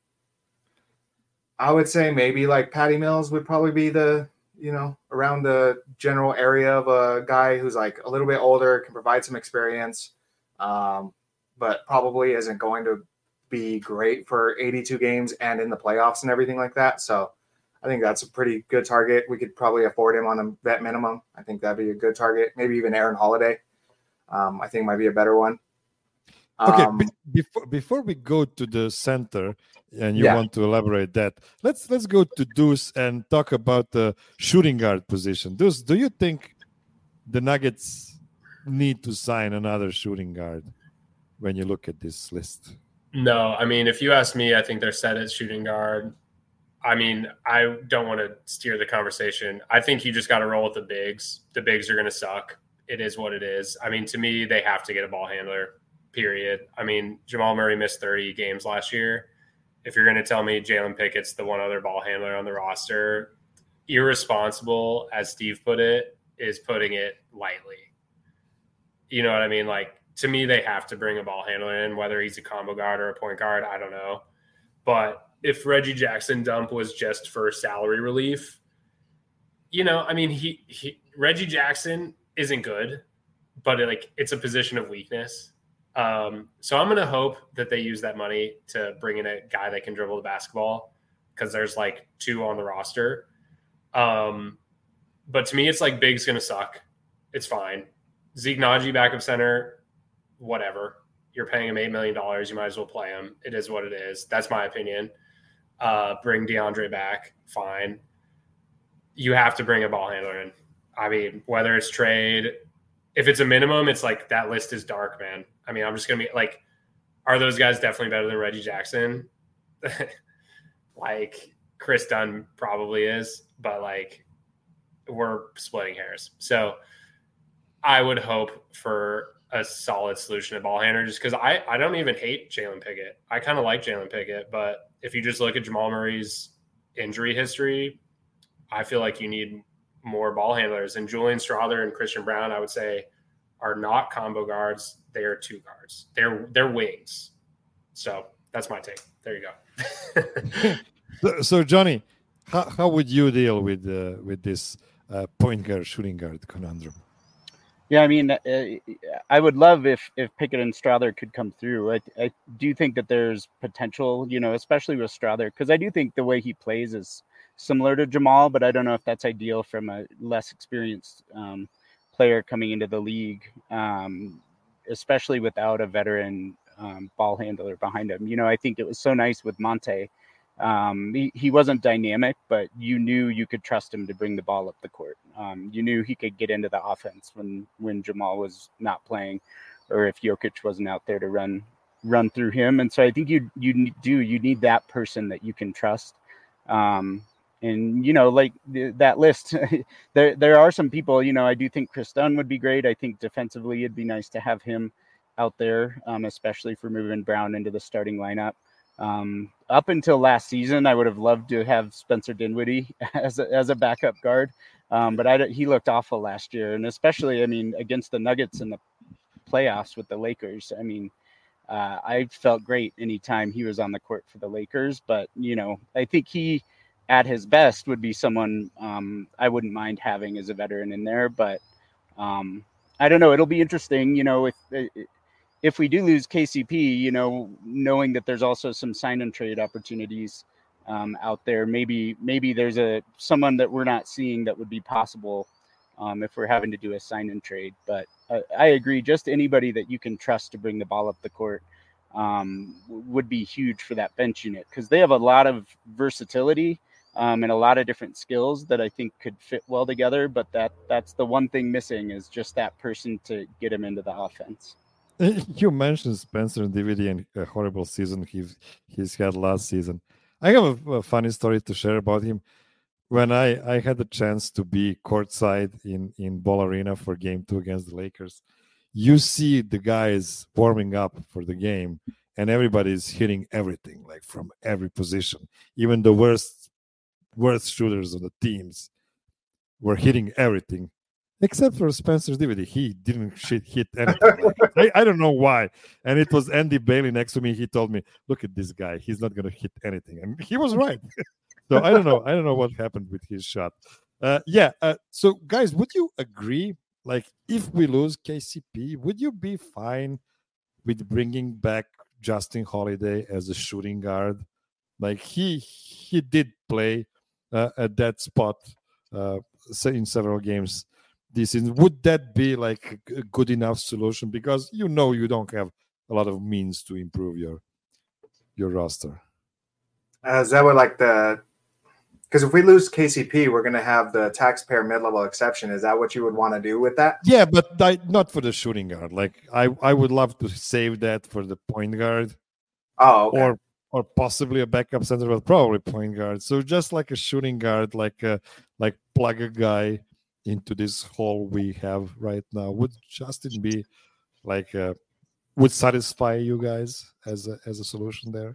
I would say maybe like Patty Mills would probably be the, you know, around the general area of a guy who's like a little bit older, can provide some experience, um, but probably isn't going to be great for eighty-two games and in the playoffs and everything like that. So I think that's a pretty good target. We could probably afford him on a vet minimum. I think that'd be a good target. Maybe even Aaron Holiday. Um, I think might be a better one. Okay, Um, be, before before we go to the center, and you Yeah. want to elaborate that, let's let's go to Deuce and talk about the shooting guard position. Deuce, do you think the Nuggets need to sign another shooting guard when you look at this list? No, I mean, if you ask me, I think they're set at shooting guard. I mean, I don't want to steer the conversation. I think you just got to roll with the bigs. The bigs are going to suck. It is what it is. I mean, to me, they have to get a ball handler, period. I mean, Jamal Murray missed thirty games last year. If you're going to tell me Jalen Pickett's the one other ball handler on the roster, irresponsible, as Steve put it, is putting it lightly. You know what I mean? Like, to me, they have to bring a ball handler in, whether he's a combo guard or a point guard. I don't know. But if Reggie Jackson dump was just for salary relief, you know, I mean, he, he Reggie Jackson isn't good, but it, like it's a position of weakness. Um, so I'm going to hope that they use that money to bring in a guy that can dribble the basketball, because there's like two on the roster. Um, but to me, it's like Big's going to suck. It's fine. Zeke Naji, backup center, whatever. You're paying him eight million dollars. You might as well play him. It is what it is. That's my opinion. Uh, bring DeAndre back. Fine. You have to bring a ball handler in. I mean, whether it's trade, if it's a minimum, it's like that list is dark, man. I mean, I'm just going to be like, are those guys definitely better than Reggie Jackson? Like, Chris Dunn probably is, but like, we're splitting hairs. So I would hope for a solid solution at ball handler, just because I, I don't even hate Jalen Pickett. I kind of like Jalen Pickett, but if you just look at Jamal Murray's injury history, I feel like you need more ball handlers. And Julian Strawther and Christian Brown, I would say, are not combo guards. They are two guards. They're they're wings. So that's my take. There you go. so, so Johnny, how, how would you deal with uh, with this uh, point guard shooting guard conundrum? Yeah, I mean, uh, I would love if if Pickett and Strawther could come through. I I do think that there's potential, you know, especially with Strawther, because I do think the way he plays is similar to Jamal, but I don't know if that's ideal from a less experienced um, player coming into the league, um, especially without a veteran um, ball handler behind him. You know, I think it was so nice with Monte. Um, he, he wasn't dynamic, but you knew you could trust him to bring the ball up the court. Um, you knew he could get into the offense when, when Jamal was not playing, or if Jokic wasn't out there to run run through him. And so I think you you do you need that person that you can trust. Um, and you know, like th- that list, there there are some people. You know, I do think Chris Dunn would be great. I think defensively it'd be nice to have him out there, um, especially for moving Brown into the starting lineup. Um, up until last season, I would have loved to have Spencer Dinwiddie as a, as a backup guard. Um, but I, he looked awful last year. And especially, I mean, against the Nuggets in the playoffs with the Lakers, I mean, uh, I felt great anytime he was on the court for the Lakers. But, you know, I think he at his best would be someone um, I wouldn't mind having as a veteran in there. But um, I don't know. It'll be interesting, you know, if it, if we do lose K C P, you know, knowing that there's also some sign and trade opportunities um, out there, maybe maybe there's a someone that we're not seeing that would be possible um, if we're having to do a sign and trade. But uh, I agree, just anybody that you can trust to bring the ball up the court um, would be huge for that bench unit, because they have a lot of versatility um, and a lot of different skills that I think could fit well together. But that that's the one thing missing, is just that person to get him into the offense. You mentioned Spencer Dinwiddie and a horrible season he's he's had last season. I have a, a funny story to share about him. When I, I had the chance to be courtside in, in Ball Arena for game two against the Lakers, you see the guys warming up for the game, and everybody's hitting everything, like from every position. Even the worst worst shooters on the teams were hitting everything. Except for Spencer Dinwiddie, he didn't shit, hit anything. I, I don't know why. And it was Andy Bailey next to me. He told me, "Look at this guy. He's not going to hit anything." And he was right. So I don't know. I don't know what happened with his shot. Uh, yeah. Uh, so guys, would you agree? Like, if we lose K C P, would you be fine with bringing back Justin Holiday as a shooting guard? Like he he did play uh, at that spot uh, in several games this season. Would that be like a good enough solution? Because you know you don't have a lot of means to improve your your roster. Uh, is that what like the? Because if we lose K C P, we're going to have the taxpayer mid-level exception. Is that what you would want to do with that? Yeah, but I, not for the shooting guard. Like I, I would love to save that for the point guard. Oh, okay. Or or possibly a backup center, but probably point guard. So just like a shooting guard, like a, like plug a guy into this hole we have right now. Would Justin be like a, would satisfy you guys as a, as a solution there?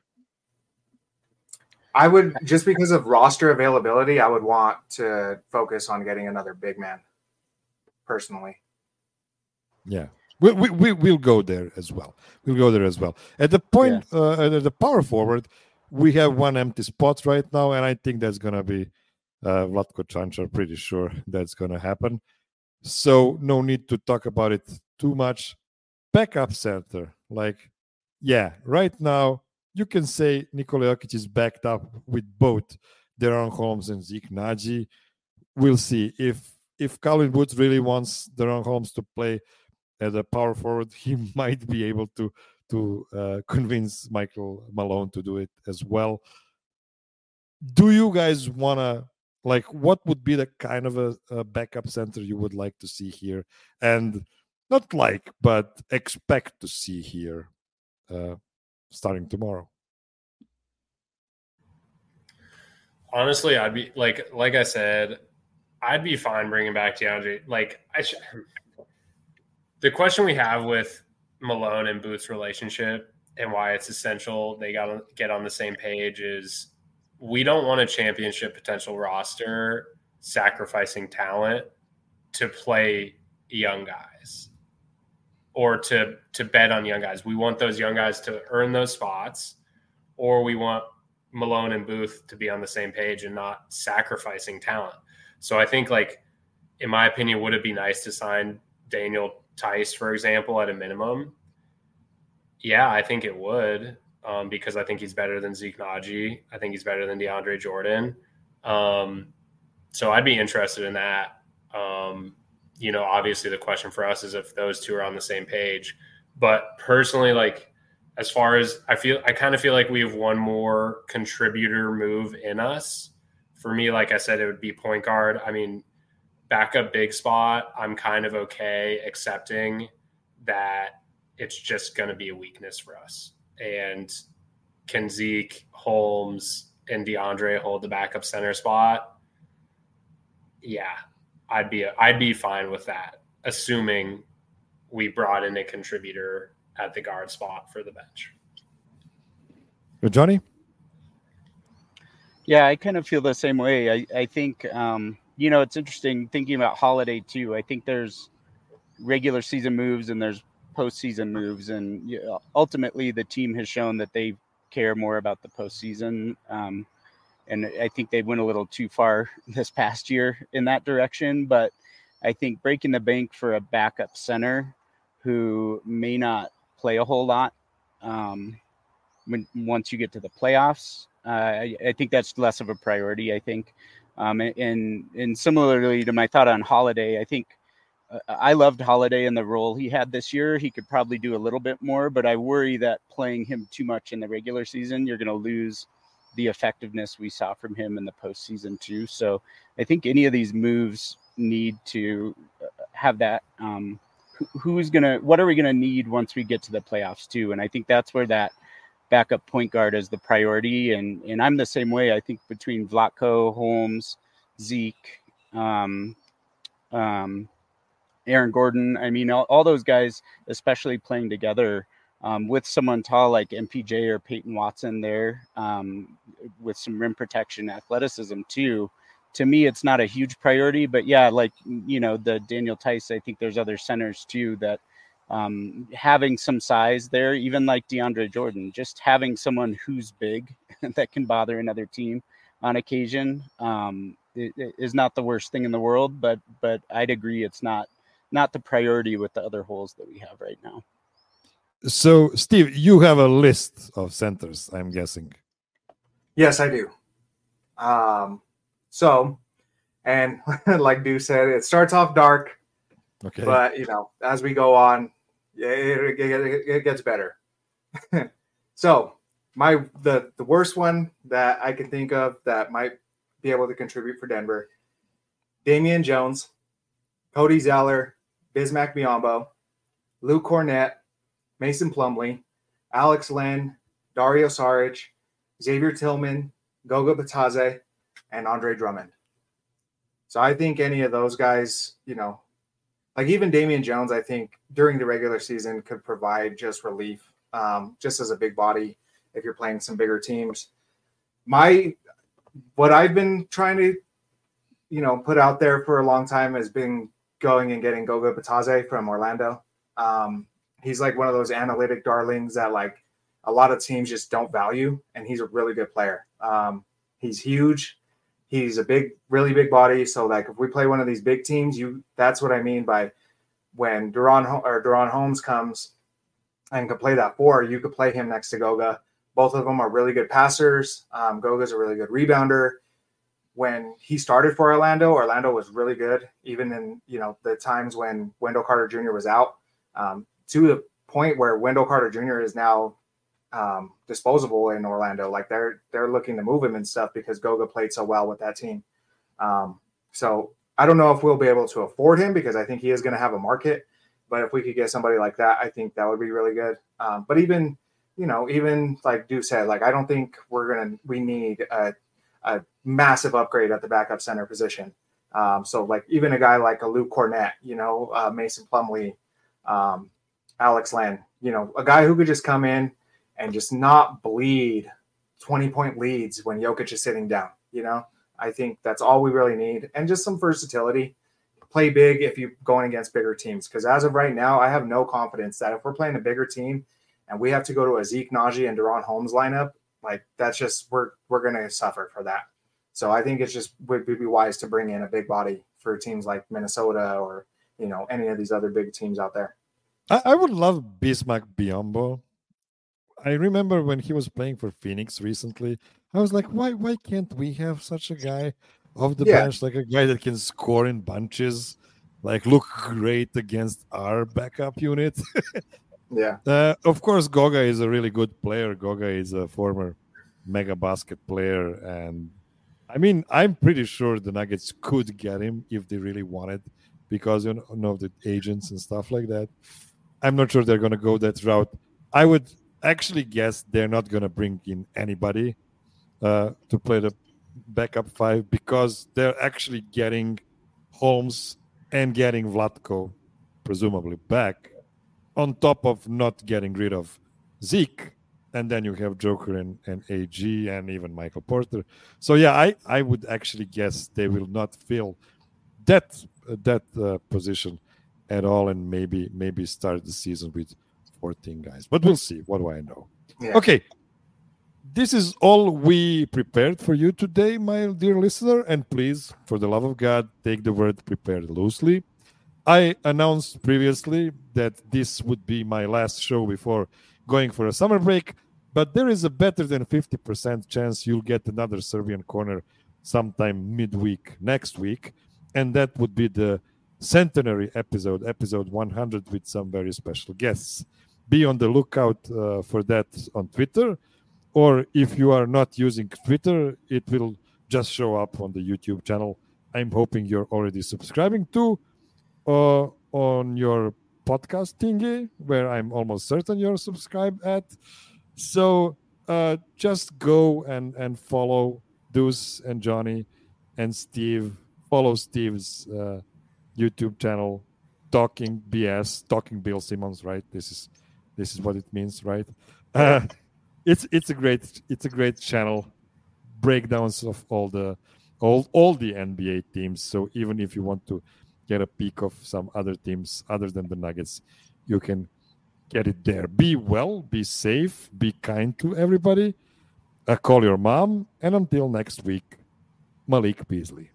I would, just because of roster availability, I would want to focus on getting another big man, personally. Yeah, we we, we we'll go there as well. We'll go there as well. At the point, yeah. uh, at the power forward, we have one empty spot right now, and I think that's gonna be uh, Vlatko Čančar. Pretty sure that's gonna happen. So no need to talk about it too much. Backup center, like, yeah, right now. You can say Nikola Jokic is backed up with both De'Aaron Holmes and Zeke Naji. We'll see. If if Calvin Booth really wants De'Aaron Holmes to play as a power forward, he might be able to to uh, convince Michael Malone to do it as well. Do you guys want to, like, what would be the kind of a, a backup center you would like to see here? And not like, but expect to see here uh, starting tomorrow? Honestly, I'd be like, like I said, I'd be fine bringing back DeAndre. Like, I sh- the question we have with Malone and Booth's relationship and why it's essential they got to get on the same page is we don't want a championship potential roster sacrificing talent to play young guys or to to bet on young guys. We want those young guys to earn those spots, or we want Malone and Booth to be on the same page and not sacrificing talent. So I think, like, in my opinion, would it be nice to sign Daniel Theis, for example, at a minimum? Yeah, I think it would, um, because I think he's better than Zeke Naji. I think he's better than DeAndre Jordan. Um, so I'd be interested in that. Um, you know, obviously the question for us is if those two are on the same page. But personally, like, as far as I feel, I kind of feel like we have one more contributor move in us. For me, like I said, it would be point guard. I mean, backup big spot, I'm kind of okay accepting that it's just going to be a weakness for us. And can Zeke, Holmes, and DeAndre hold the backup center spot? Yeah, I'd be I'd be fine with that, assuming we brought in a contributor at the guard spot for the bench. Johnny? Yeah, I kind of feel the same way. I, I think, um, you know, it's interesting thinking about Holiday too. I think there's regular season moves and there's postseason moves. And you know, ultimately the team has shown that they care more about the postseason. Um, and I think they went a little too far this past year in that direction. But I think breaking the bank for a backup center who may not play a whole lot um, when once you get to the playoffs, uh, I, I think that's less of a priority. I think, um, and and similarly to my thought on Holiday, I think uh, I loved Holiday in the role he had this year. He could probably do a little bit more, but I worry that playing him too much in the regular season, you're going to lose the effectiveness we saw from him in the postseason too. So I think any of these moves need to have that. Um, Who's gonna? What are we gonna need once we get to the playoffs too? And I think that's where that backup point guard is the priority. And and I'm the same way. I think between Vlatko, Holmes, Zeke, um, um, Aaron Gordon. I mean, all, all those guys, especially playing together um, with someone tall like M P J or Peyton Watson there, um, with some rim protection, athleticism too. To me, it's not a huge priority, but yeah, like, you know, the Daniel Theis, I think there's other centers too that um, having some size there, even like DeAndre Jordan, just having someone who's big that can bother another team on occasion um, it, it is not the worst thing in the world, but but I'd agree it's not not the priority with the other holes that we have right now. So, Steve, you have a list of centers, I'm guessing. Yes, I do. Um, So, and like Dew said, it starts off dark, okay, but, you know, as we go on, it, it, it, it gets better. So my the the worst one that I can think of that might be able to contribute for Denver: Damian Jones, Cody Zeller, Bismack Biyombo, Luke Cornett, Mason Plumlee, Alex Len, Dario Saric, Xavier Tillman, Goga Batadze, and Andre Drummond. So I think any of those guys, you know, like even Damian Jones, I think during the regular season could provide just relief, um, just as a big body if you're playing some bigger teams. My what I've been trying to, you know, put out there for a long time has been going and getting Goga Batadze from Orlando. Um, he's like one of those analytic darlings that like a lot of teams just don't value, and he's a really good player. Um, he's huge. He's a big, really big body. So like if we play one of these big teams, you that's what I mean by when Duron or Duron Holmes comes and can play that four, you could play him next to Goga. Both of them are really good passers. Um, Goga's a really good rebounder. When he started for Orlando, Orlando was really good, even in, you know, the times when Wendell Carter Junior was out, um, to the point where Wendell Carter Junior is now um, disposable in Orlando. Like they're they're looking to move him and stuff because Goga played so well with that team. Um, so I don't know if we'll be able to afford him because I think he is going to have a market. But if we could get somebody like that, I think that would be really good. Um, but even, you know, even like Deuce said, like I don't think we're gonna we need a a massive upgrade at the backup center position. Um, so like even a guy like a Luke Cornett, you know, uh, Mason Plumlee, um, Alex Len, you know, a guy who could just come in and just not bleed twenty point leads when Jokic is sitting down. You know, I think that's all we really need. And just some versatility, play big if you're going against bigger teams. Cause as of right now, I have no confidence that if we're playing a bigger team and we have to go to a Zeke Naji and Duron Holmes lineup, like that's just we're we're gonna suffer for that. So I think it's just would be wise to bring in a big body for teams like Minnesota or, you know, any of these other big teams out there. I, I would love Bismack Biyombo. I remember when he was playing for Phoenix recently, I was like, why why can't we have such a guy off the Yeah. bench, like a guy that can score in bunches, like look great against our backup unit? Yeah. Uh, of course, Goga is a really good player. Goga is a former mega basket player. And I mean, I'm pretty sure the Nuggets could get him if they really wanted because you know the agents and stuff like that. I'm not sure they're going to go that route. I would actually guess they're not going to bring in anybody uh, to play the backup five because they're actually getting Holmes and getting Vlatko, presumably, back on top of not getting rid of Zeke. And then you have Joker and, and A G and even Michael Porter. So, yeah, I, I would actually guess they will not fill that uh, that uh, position at all and maybe maybe start the season with fourteen guys. But we'll see. What do I know? Yeah. Okay. This is all we prepared for you today, my dear listener. And please, for the love of God, take the word prepared loosely. I announced previously that this would be my last show before going for a summer break, but there is a better than fifty percent chance you'll get another Serbian Corner sometime midweek next week, and that would be the centenary episode, episode one hundred, with some very special guests. Be on the lookout uh, for that on Twitter, or if you are not using Twitter, it will just show up on the YouTube channel. I'm hoping you're already subscribing to uh, on your podcast thingy, where I'm almost certain you're subscribed at. So uh, just go and, and follow Deuce and Johnny and Steve. Follow Steve's uh, YouTube channel, Talking B S, Talking Bill Simmons, right? This is this is what it means, right? Uh, it's it's a great it's a great channel. Breakdowns of all the all all the N B A teams. So even if you want to get a peek of some other teams other than the Nuggets, you can get it there. Be well, be safe, be kind to everybody. Uh, call your mom, and until next week, Malik Beasley.